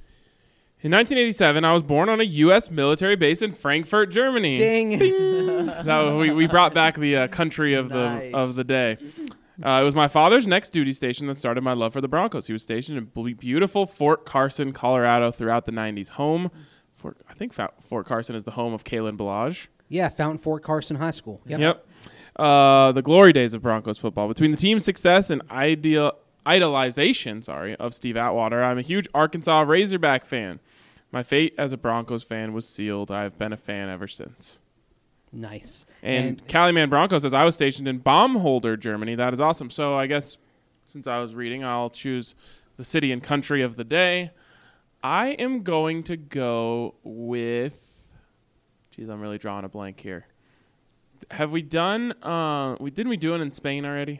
In nineteen eighty-seven, I was born on a U S military base in Frankfurt, Germany. Ding. That, we, we brought back the uh, country of Nice. the of the day. Uh, it was my father's next duty station that started my love for the Broncos. He was stationed in ble- beautiful Fort Carson, Colorado throughout the nineties. Home, Fort, I think Fa- Fort Carson is the home of Kalen Balaj. Yeah, Fountain Fort Carson High School. Yep. Yep. Uh, the glory days of Broncos football. Between the team's success and ideal idolization, sorry, of Steve Atwater, I'm a huge Arkansas Razorback fan. My fate as a Broncos fan was sealed. I've been a fan ever since. Nice. And, Caliman Bronco says, I was stationed in Baumholder, Germany. That is awesome. So I guess since I was reading, I'll choose the city and country of the day. I am going to go with, geez, I'm really drawing a blank here. Have we done, uh, we didn't we do it in Spain already?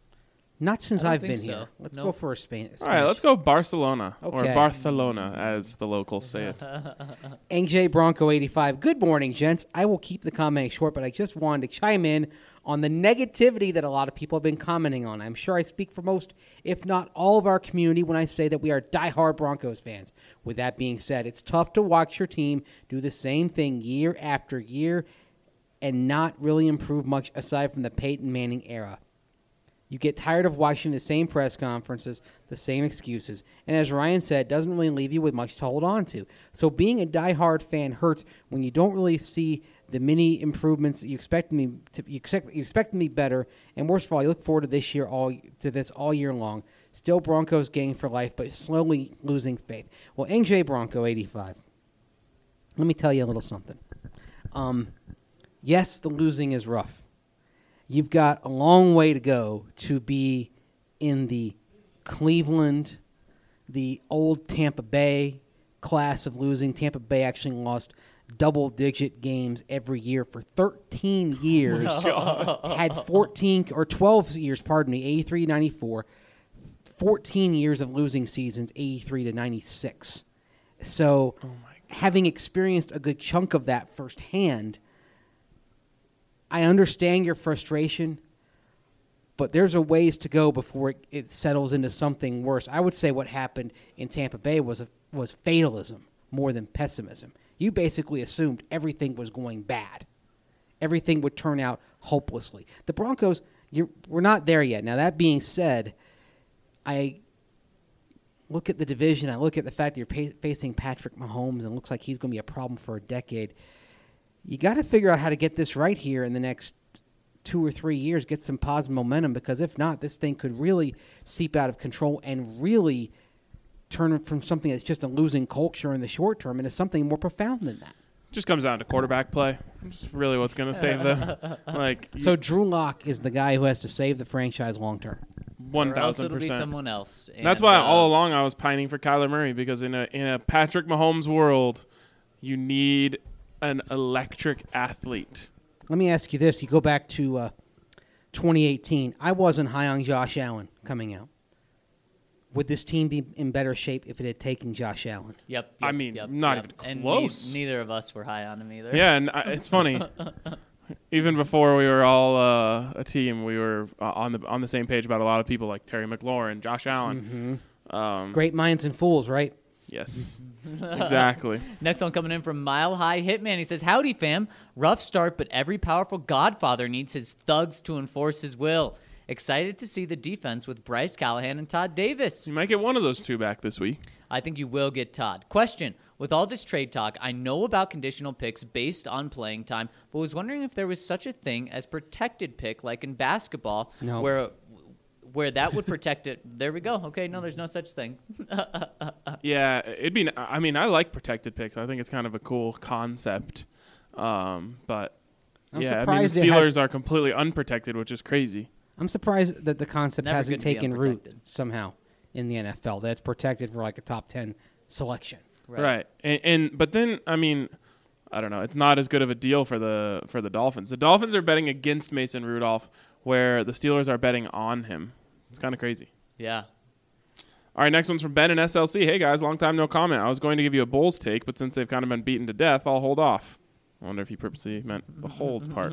Not since I don't I've think been so. here. Let's Nope. go for a Spain. All right, let's go Barcelona or Okay. Barcelona, as the locals say it. N J Bronco eighty-five. Good morning, gents. I will keep the comment short, but I just wanted to chime in on the negativity that a lot of people have been commenting on. I'm sure I speak for most, if not all, of our community when I say that we are diehard Broncos fans. With that being said, it's tough to watch your team do the same thing year after year and not really improve much aside from the Peyton Manning era. You get tired of watching the same press conferences, the same excuses, and as Ryan said, doesn't really leave you with much to hold on to. So being a diehard fan hurts when you don't really see the many improvements that you expect me to. You expect you expect me better, and worst of all, you look forward to this year all to this all year long. Still Broncos gang for life, but slowly losing faith. Well, N J Bronco eighty-five. Let me tell you a little something. Um, yes, the losing is rough. You've got a long way to go to be in the Cleveland, the old Tampa Bay class of losing. Tampa Bay actually lost double-digit games every year for thirteen years. Had fourteen or twelve years, pardon me, eighty-three to ninety-four. fourteen years of losing seasons, eighty-three to ninety-six. So having experienced a good chunk of that firsthand, I understand your frustration, but there's a ways to go before it, it settles into something worse. I would say what happened in Tampa Bay was a, was fatalism more than pessimism. You basically assumed everything was going bad. Everything would turn out hopelessly. The Broncos, you're, we're not there yet. Now, that being said, I look at the division. I look at the fact that you're pa- facing Patrick Mahomes and it looks like he's going to be a problem for a decade. You got to figure out how to get this right here in the next two or three years, get some positive momentum, because if not, this thing could really seep out of control and really turn it from something that's just a losing culture in the short term into something more profound than that. Just comes down to quarterback play. It's really what's going to save them. Like So Drew Lock is the guy who has to save the franchise long term. one Or else thousand it'll be percent. someone else. That's And, why uh, all along I was pining for Kyler Murray, because in a in a Patrick Mahomes world, you need an electric athlete. Let me ask you this. You go back to uh, twenty eighteen. I wasn't high on Josh Allen coming out. would this team be in better shape if it had taken Josh Allen? Yep. I yep, mean, yep, not yep. even And close. ne- neither of us were high on him either. Yeah, and I, it's funny. Even before we were all uh, a team, we were uh, on the on the same page about a lot of people like Terry McLaurin, Josh Allen. Mm-hmm. Um, Great minds and fools, right? Yes, exactly. Next one coming in from Mile High Hitman. He says, "Howdy, fam. Rough start, but every powerful Godfather needs his thugs to enforce his will. Excited to see the defense with Bryce Callahan and Todd Davis. You might get one of those two back this week. I think you will get Todd. Question. With all this trade talk, I know about conditional picks based on playing time, but was wondering if there was such a thing as protected pick like in basketball No. where where that would protect it. There we go. Okay, no, there's no such thing. Yeah, it'd be. I mean, I like protected picks. I think it's kind of a cool concept. Um, but I'm yeah, I mean, the surprised it Steelers has- are completely unprotected, which is crazy. I'm surprised that the concept Never hasn't good to be taken root unprotected. somehow in the N F L. That's protected for like a top ten selection. Right. And, and but then I mean, I don't know. It's not as good of a deal for the for the Dolphins. The Dolphins are betting against Mason Rudolph, where the Steelers are betting on him. It's kind of crazy. Yeah. All right, next one's from Ben and S L C. Hey guys, long time no comment. I was going to give you a Bulls take, but since they've kind of been beaten to death, I'll hold off. I wonder if he purposely meant the hold part.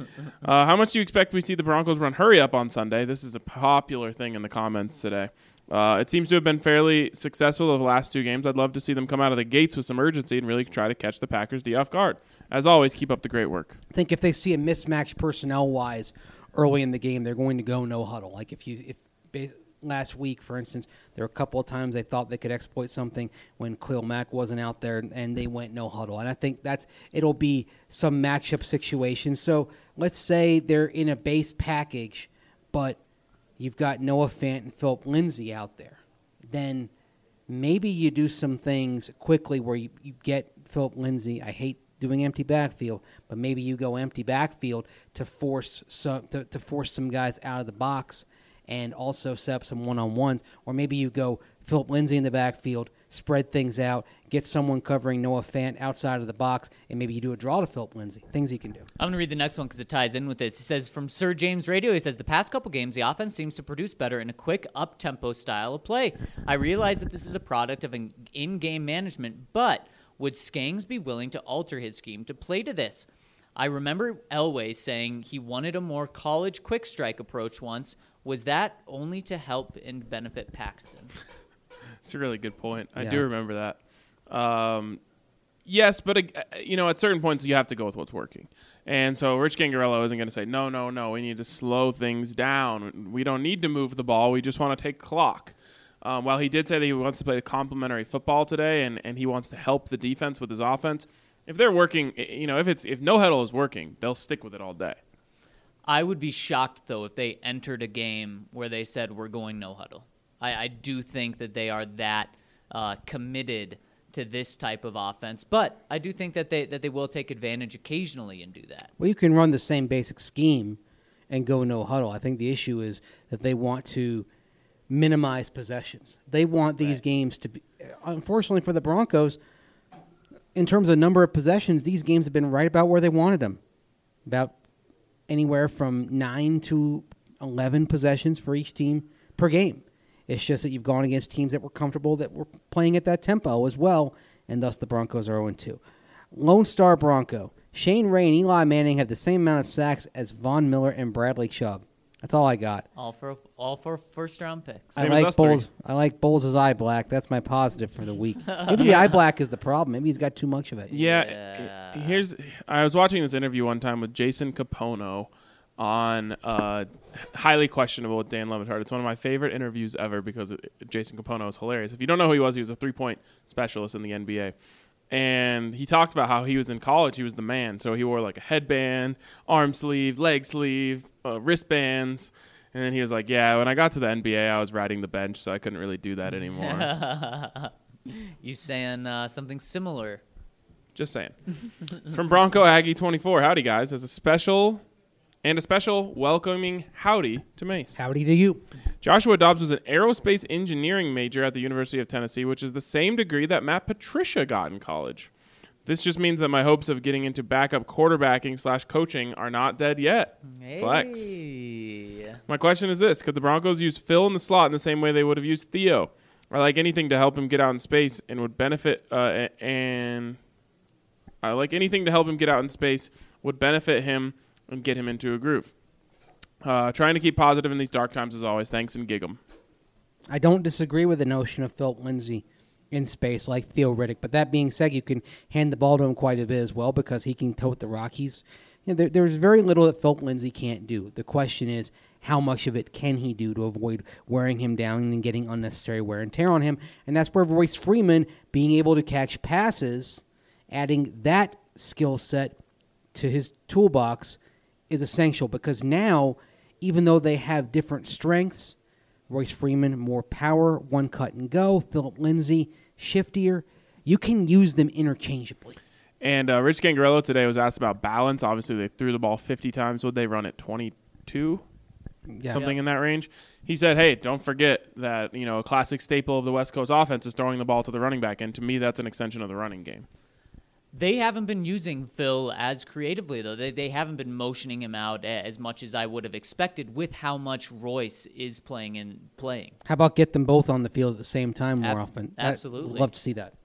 Uh, how much do you expect we see the Broncos run hurry up on Sunday? This is a popular thing in the comments today. Uh, it seems to have been fairly successful over the last two games. I'd love to see them come out of the gates with some urgency and really try to catch the Packers D off guard. As always, keep up the great work. I think if they see a mismatch personnel-wise early in the game, they're going to go no huddle. Like if you if bas- last week, for instance, there were a couple of times they thought they could exploit something when Khalil Mack wasn't out there, and they went no huddle. And I think that's it'll be some matchup situation. So let's say they're in a base package, but you've got Noah Fant and Philip Lindsay out there. Then maybe you do some things quickly where you, you get Philip Lindsay. I hate doing empty backfield, but maybe you go empty backfield to force some to, to force some guys out of the box and also set up some one-on-ones. Or maybe you go Philip Lindsay in the backfield, spread things out, get someone covering Noah Fant outside of the box, and maybe you do a draw to Philip Lindsay. Things you can do. I'm going to read the next one because it ties in with this. He says, from Sir James Radio, he says, the past couple games, the offense seems to produce better in a quick, up-tempo style of play. I realize that this is a product of an in-game management, but would Skangs be willing to alter his scheme to play to this? I remember Elway saying he wanted a more college quick strike approach once. Was that only to help and benefit Paxton? It's a really good point. I Yeah. do remember that. Um, yes, but, uh, you know, at certain points you have to go with what's working. And so Rich Gangarello isn't going to say, no, no, no, we need to slow things down. We don't need to move the ball. We just want to take clock. Um, while he did say that he wants to play complementary football today and, and he wants to help the defense with his offense, if they're working, you know, if it's if no huddle is working, they'll stick with it all day. I would be shocked, though, if they entered a game where they said we're going no huddle. I, I do think that they are that uh, committed to this type of offense, but I do think that they that they will take advantage occasionally and do that. Well, you can run the same basic scheme and go no huddle. I think the issue is that they want to minimize possessions. They want these Right. games to be. Unfortunately for the Broncos, in terms of number of possessions, these games have been right about where they wanted them. About anywhere from nine to eleven possessions for each team per game. It's just that you've gone against teams that were comfortable, that were playing at that tempo as well, and thus the Broncos are oh and two. Lone Star Bronco. Shane Ray and Eli Manning have the same amount of sacks as Von Miller and Bradley Chubb. That's all I got. All for all for first round picks. I Same as like us three. Bulls. I like Bulls' eye black. That's my positive for the week. Maybe the eye black is the problem. Maybe he's got too much of it. Yeah, Yeah. i- here's. I was watching this interview one time with Jason Capono on uh, highly questionable with Dan Le Batard. It's one of my favorite interviews ever because it, Jason Capono is hilarious. If you don't know who he was, he was a three-point specialist in the N B A. And he talked about how he was in college, he was the man. So he wore like a headband, arm sleeve, leg sleeve, uh, wristbands. And then he was like, yeah, when I got to the N B A, I was riding the bench, so I couldn't really do that anymore. You saying uh, something similar? Just saying. From Bronco Aggie twenty-four, howdy guys. As a special and a special welcoming howdy to Mace. Howdy to you. Joshua Dobbs was an aerospace engineering major at the University of Tennessee, which is the same degree that Matt Patricia got in college. This just means that my hopes of getting into backup quarterbacking slash coaching are not dead yet. Flex. Hey. My question is this. Could the Broncos use Phil in the slot in the same way they would have used Theo? I like anything to help him get out in space and would benefit uh, and I like anything to help him get out in space would benefit him and get him into a groove. Uh, trying to keep positive in these dark times as always. Thanks and gig 'em. I don't disagree with the notion of Philip Lindsay in space like Theo Riddick, but that being said, you can hand the ball to him quite a bit as well because he can tote the rock. He's, you know, there, there's very little that Philip Lindsay can't do. The question is, how much of it can he do to avoid wearing him down and getting unnecessary wear and tear on him? And that's where Royce Freeman being able to catch passes, adding that skill set to his toolbox is essential because now, even though they have different strengths, Royce Freeman, more power, one cut and go, Philip Lindsay, shiftier, you can use them interchangeably. And uh, Rich Gangarello today was asked about balance. Obviously, they threw the ball fifty times. Would they run it twenty-two? Yeah. Something Yep. in that range. He said, hey, don't forget that, you know, a classic staple of the West Coast offense is throwing the ball to the running back. And to me, that's an extension of the running game. They haven't been using Phil as creatively, though. They, they haven't been motioning him out as much as I would have expected with how much Royce is playing and playing. How about get them both on the field at the same time more Ab- often? absolutely. I'd love to see that.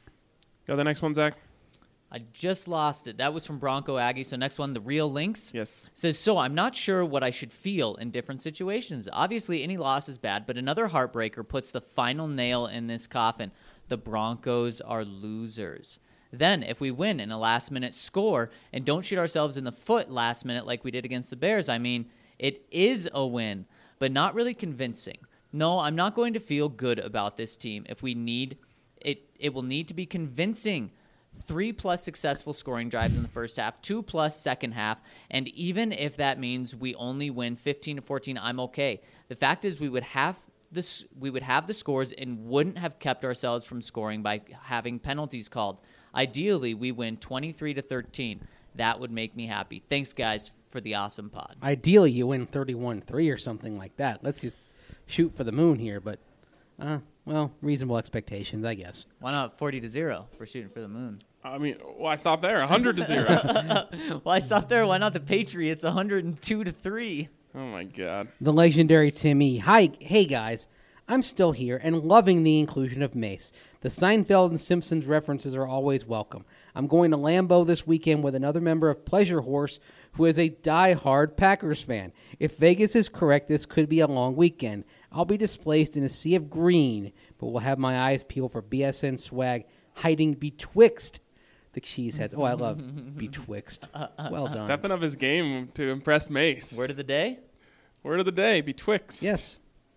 Got the next one, Zach? I just lost it. That was from Bronco Aggie. So next one, the real Lynx. Yes. Says, so I'm not sure what I should feel in different situations. Obviously, any loss is bad, but another heartbreaker puts the final nail in this coffin. The Broncos are losers. Then, if we win in a last-minute score and don't shoot ourselves in the foot last minute like we did against the Bears, I mean, it is a win, but not really convincing. No, I'm not going to feel good about this team. If we need it, it will need to be convincing. Three-plus successful scoring drives in the first half, two-plus second half, and even if that means we only win fifteen to fourteen, I'm okay. The fact is we would have this, we would have the scores and wouldn't have kept ourselves from scoring by having penalties called. Ideally, we win twenty-three to thirteen. That would make me happy. Thanks, guys, for the awesome pod. Ideally, you win thirty-one three or something like that. Let's just shoot for the moon here, but, uh, well, reasonable expectations, I guess. Why not forty to zero for shooting for the moon? I mean, why stop there? one hundred to zero. Why stop there? Why not the Patriots one hundred two to three? Oh, my God. The legendary Timmy. Hi, hey guys. I'm still here and loving the inclusion of Mace. The Seinfeld and Simpsons references are always welcome. I'm going to Lambeau this weekend with another member of Pleasure Horse who is a die-hard Packers fan. If Vegas is correct, this could be a long weekend. I'll be displaced in a sea of green, but will have my eyes peeled for B S N swag hiding betwixt the cheeseheads. Oh, I love betwixt. Well done. Stepping up his game to impress Mace. Word of the day? Word of the day, betwixt. Yes.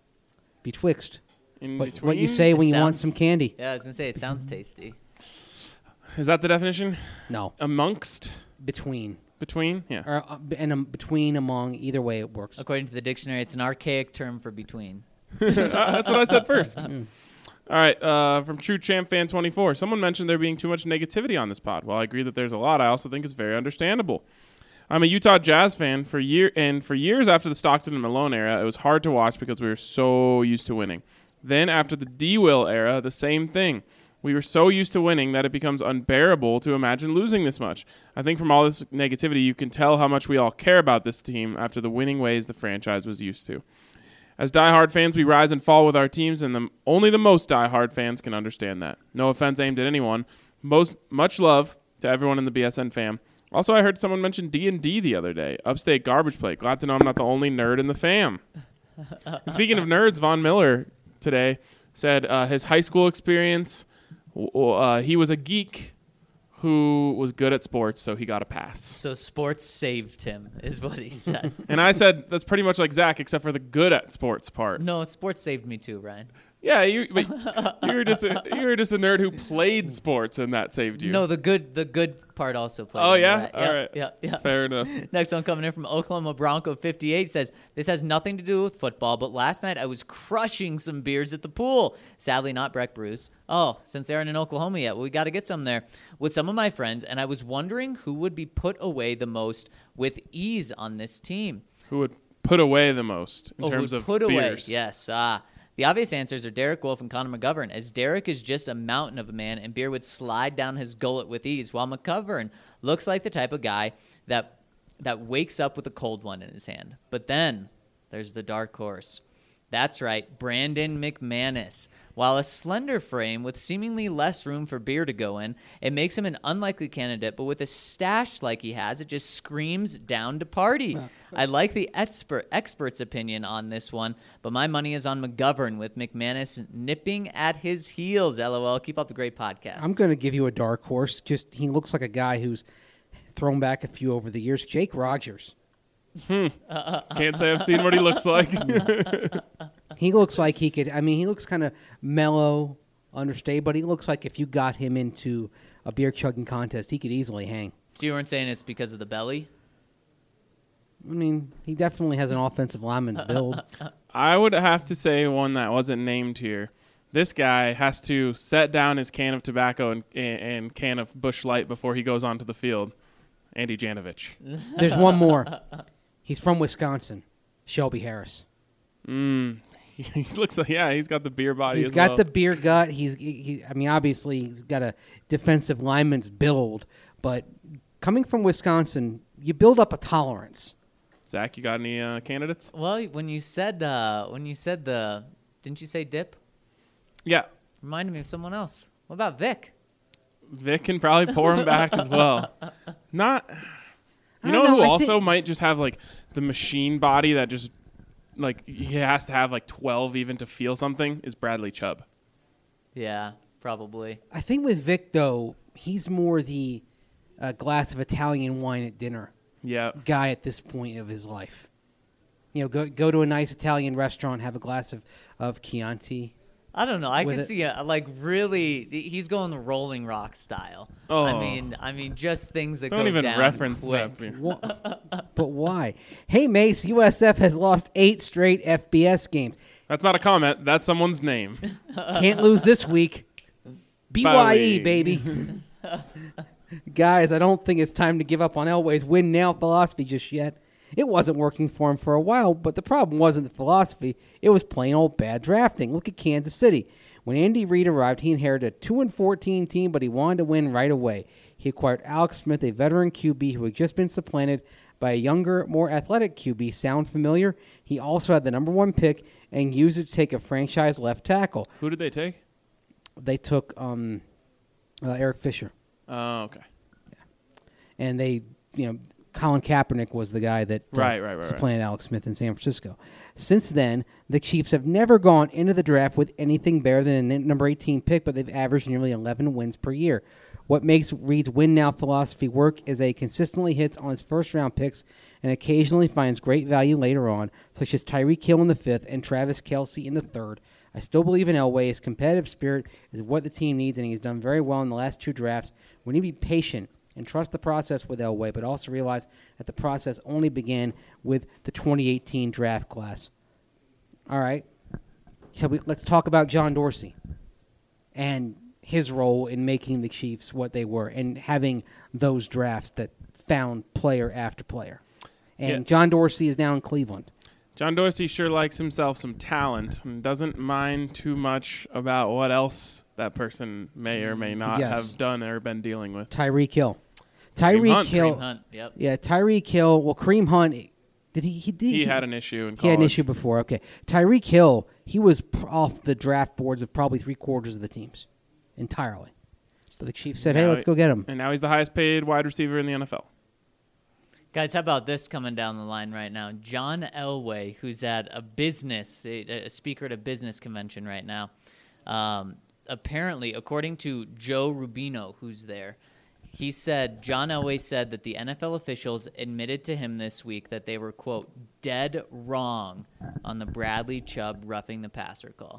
Betwixt. In What, between. what you say when It you want sounds- some candy. Yeah, I was going to say, it sounds tasty. Is that the definition? No. Amongst? Between. Between? Yeah. Or uh, and um, between, among, either way it works. According to the dictionary, it's an archaic term for between. Uh, That's what I said first. All right, uh, from True Champ Fan twenty-four. Someone mentioned there being too much negativity on this pod. While I agree that there's a lot, I also think it's very understandable. I'm a Utah Jazz fan for year, and for years after the Stockton and Malone era, it was hard to watch because we were so used to winning. Then after the D-Will era, the same thing. We were so used to winning that it becomes unbearable to imagine losing this much. I think from all this negativity, you can tell how much we all care about this team after the winning ways the franchise was used to. As diehard fans, we rise and fall with our teams, and the, only the most diehard fans can understand that. No offense aimed at anyone. Most much love to everyone in the B S N fam. Also, I heard someone mention D and D the other day. Upstate Garbage Plate. Glad to know I'm not the only nerd in the fam. And speaking of nerds, Von Miller today said uh, his high school experience, uh, he was a geek who was good at sports, so he got a pass. So sports saved him, is what he said. And I said, that's pretty much like Zach, except for the good at sports part. No, sports saved me too, Ryan. Yeah, you, but you were just a, you were just a nerd who played sports, and that saved you. No, the good the good part also played. Oh, into yeah? that. All yeah, right. Yeah, yeah. Fair enough. Next one coming in from Oklahoma Bronco fifty-eight says, this has nothing to do with football, but last night I was crushing some beers at the pool. Sadly, not Breck Brews. Oh, since they're in Oklahoma yet, well, we got to get some there. With some of my friends, and I was wondering who would be put away the most with ease on this team. Who would put away the most in Oh, terms would of put beers? away. Yes. Ah. The obvious answers are Derek Wolf and Connor McGovern, as Derek is just a mountain of a man, and beer would slide down his gullet with ease, while McGovern looks like the type of guy that that wakes up with a cold one in his hand. But then, There's the dark horse. That's right, Brandon McManus. While a slender frame with seemingly less room for beer to go in, it makes him an unlikely candidate, but with a stash like he has, it just screams down to party. I like the expert expert's opinion on this one, but my money is on McGovern with McManus nipping at his heels. LOL. Keep up the great podcast. I'm going to give you a dark horse. Just he looks like a guy who's thrown back a few over the years. Jake Rogers. Hmm. Can't say I've seen what he looks like. He looks like he could. I mean, he looks kind of mellow, understated, but he looks like if you got him into a beer chugging contest, he could easily hang. So you weren't saying it's because of the belly? I mean, he definitely has an offensive lineman's build. I would have to say one that wasn't named here. This guy has to set down his can of tobacco and, and can of Busch Light before he goes onto the field. Andy Janovich. There's one more. He's from Wisconsin. Shelby Harris. Mm. He looks like, yeah, he's got the beer body He's as got well. the beer gut. He's, he, he, I mean, obviously he's got a defensive lineman's build, but coming from Wisconsin, you build up a tolerance. Zach, you got any uh, candidates? Well, when you said uh, when you said the, didn't you say dip? Yeah. Reminded me of someone else. What about Vic? Vic can probably pour him back as well. Not, you I know, don't know, who I also think- might just have like the machine body that just like he has to have like twelve even to feel something is Bradley Chubb. Yeah, probably. I think with Vic, though, he's more the uh, glass of Italian wine at dinner Yeah. guy at this point of his life. You know, go go to a nice Italian restaurant, have a glass of, of Chianti. I don't know. I With can it- see a, like really. He's going the Rolling Rock style. Oh. I mean, I mean, just things that Don't go even down reference quick. that. Wha- but why? Hey, Mace, U S F has lost eight straight F B S games. That's not a comment. That's someone's name. Can't lose this week. B Y E, Bowie. baby. Guys, I don't think it's time to give up on Elway's win now philosophy just yet. It wasn't working for him for a while, but the problem wasn't the philosophy. It was plain old bad drafting. Look at Kansas City. When Andy Reid arrived, he inherited a two and fourteen team, but he wanted to win right away. He acquired Alex Smith, a veteran Q B who had just been supplanted by a younger, more athletic Q B. Sound familiar? He also had the number one pick and used it to take a franchise left tackle. Who did they take? They took um, uh, Eric Fisher. Oh, okay. And they, you know, Colin Kaepernick was the guy that uh, Right, right, right, supplanted Alex Smith in San Francisco. Since then, the Chiefs have never gone into the draft with anything better than a number eighteen pick, but they've averaged nearly eleven wins per year. What makes Reid's win-now philosophy work is that he consistently hits on his first-round picks and occasionally finds great value later on, such as Tyreek Hill in the fifth and Travis Kelce in the third. I still believe in Elway. His competitive spirit is what the team needs, and he's done very well in the last two drafts. We need to be patient and trust the process with Elway, but also realize that the process only began with the twenty eighteen draft class. All right. Shall we, let's talk about John Dorsey and his role in making the Chiefs what they were and having those drafts that found player after player. And Yeah. John Dorsey is now in Cleveland. John Dorsey sure likes himself some talent and doesn't mind too much about what else that person may or may not Yes. have done or been dealing with. Tyreek Hill. Kareem Tyreek Hunt. Hill. Kareem Hunt, yep. Yeah, Tyreek Hill. Well, Kareem Hunt. Did he? He did. He had an issue in He had an college. issue before. Okay, Tyreek Hill. He was pr- off the draft boards of probably three quarters of the teams, entirely. But the Chiefs said, "Hey, Now let's he- go get him." And now he's the highest paid wide receiver in the N F L. Guys, how about this coming down the line right now? John Elway, who's at a business, a, a speaker at a business convention right now. Um, apparently, according to Joe Rubino, who's there, he said, John Elway said that the N F L officials admitted to him this week that they were, quote, dead wrong on the Bradley Chubb roughing the passer call.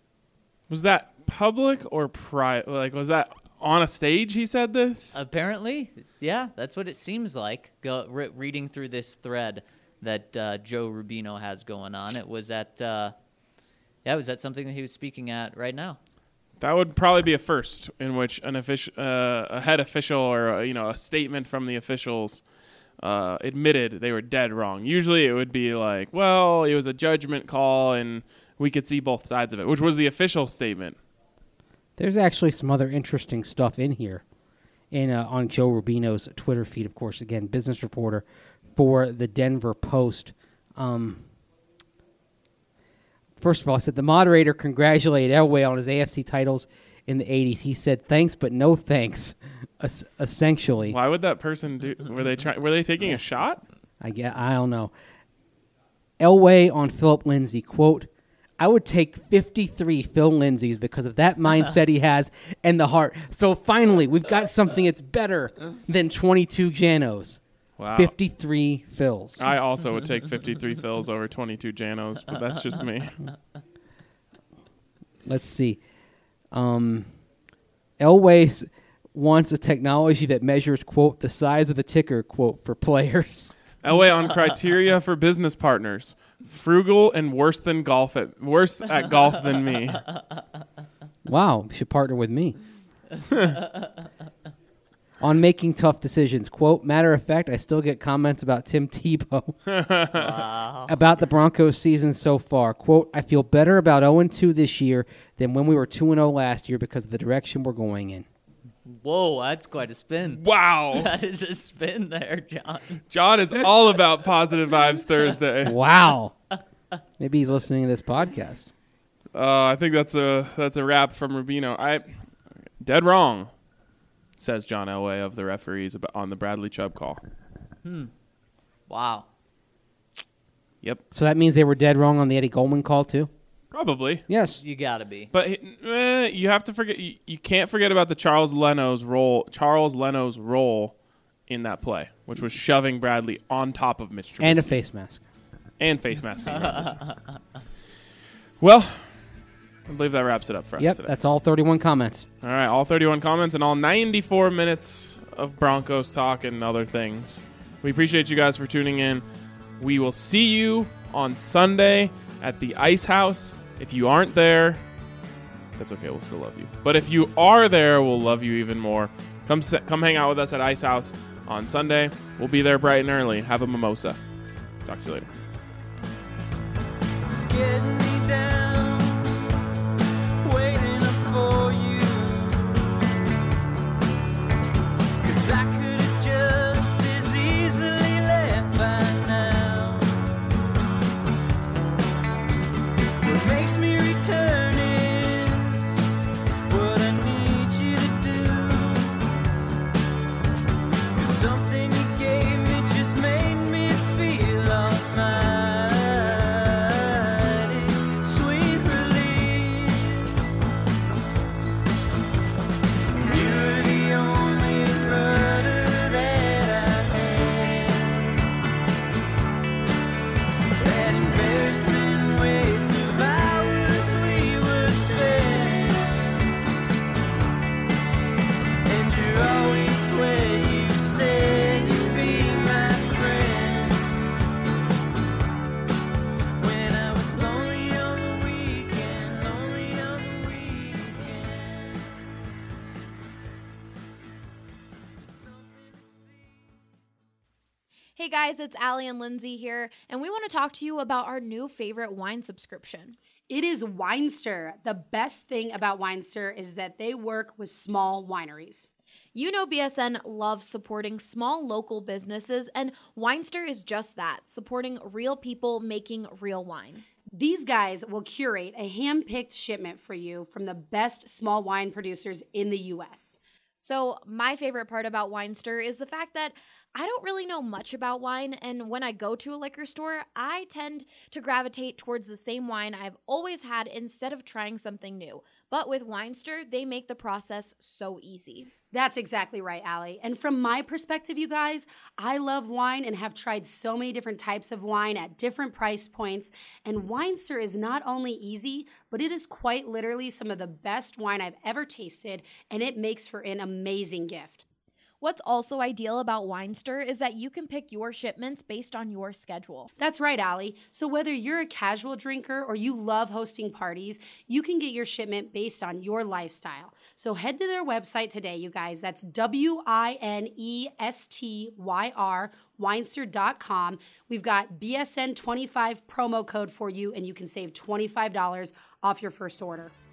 Was that public or private? Like, was that on a stage he said this? Apparently, yeah, that's what it seems like. Go, re- reading through this thread that uh, Joe Rubino has going on, it was at, uh, yeah, it was at something that he was speaking at right now. That would probably be a first in which an official, uh, a head official, or uh, you know, a statement from the officials uh, admitted they were dead wrong. Usually, it would be like, "Well, it was a judgment call, and we could see both sides of it," which was the official statement. There's actually some other interesting stuff in here, in uh, on Joe Rubino's Twitter feed. Of course, again, business reporter for the Denver Post. Um, First of all, I said the moderator congratulated Elway on his A F C titles in the eighties. He said thanks, but no thanks. Es- essentially, Why would that person do? Were they trying? Were they taking a shot? I get. I don't know. Elway on Philip Lindsay, quote, I would take fifty-three Phil Lindsays because of that mindset he has and the heart. So finally, we've got something that's better than twenty-two Janos. Wow. fifty-three Phils. I also would take fifty-three Phils over twenty-two Janos, but that's just me. Let's see. Um, Elway s- wants a technology that measures, quote, the size of the ticker, quote, for players. Elway on criteria for business partners: frugal and worse than golf at worse at golf than me. Wow, you should partner with me. On making tough decisions, quote, matter of fact, I still get comments about Tim Tebow about the Broncos season so far. Quote, I feel better about oh and two this year than when we were two and oh last year because of the direction we're going in. Whoa, that's quite a spin. Wow, That is a spin there, John. John is all about positive vibes Thursday. Wow. Maybe he's listening to this podcast. Uh, I think that's a that's a wrap from Rubino. I dead wrong, says John Elway of the referees about, on the Bradley Chubb call. Wow. Yep, So that means they were dead wrong on the Eddie Goldman call, too? probably. Yes. You gotta be. But eh, you have to forget. You, you can't forget about the Charles Leno's role. Charles Leno's role in that play, which was shoving Bradley on top of Mitch Trubisky And a face mask. and face masking. Well, I believe that wraps it up for us Yep, today. that's all thirty-one comments. All right, all thirty-one comments and all ninety-four minutes of Broncos talk and other things. We appreciate you guys for tuning in. We will see you on Sunday at the Ice House. If you aren't there, that's okay. We'll still love you. But if you are there, we'll love you even more. Come se- come hang out with us at Ice House on Sunday. We'll be there bright and early. Have a mimosa. Talk to you later. It's getting me down, waiting up for you. 'Cause I could have just as easily left by now. What makes me return is what I need you to do. 'Cause something you gave me just made me feel almighty. Sweet relief. You're the only rudder that I had. That embarrassing waste of hours we would spend. And you're always where you said you'd be my friend. When I was lonely on the weekend, lonely on the weekend. Hey guys, it's Allie and Lindsay here, and we want to talk to you about our new favorite wine subscription. It is Winester. The best thing about Winester is that they work with small wineries. You know B S N loves supporting small local businesses, and Winester is just that, supporting real people making real wine. These guys will curate a hand-picked shipment for you from the best small wine producers in the U S. So my favorite part about Winester is the fact that I don't really know much about wine, and when I go to a liquor store, I tend to gravitate towards the same wine I've always had instead of trying something new. But with Winester, they make the process so easy. That's exactly right, Allie. And from my perspective, you guys, I love wine and have tried so many different types of wine at different price points. And Winester is not only easy, but it is quite literally some of the best wine I've ever tasted, and it makes for an amazing gift. What's also ideal about Winester is that you can pick your shipments based on your schedule. That's right, Allie. So whether you're a casual drinker or you love hosting parties, you can get your shipment based on your lifestyle. So head to their website today, you guys. That's W I N E S T Y R, Winester dot com. We've got B S N twenty-five promo code for you, and you can save twenty-five dollars off your first order.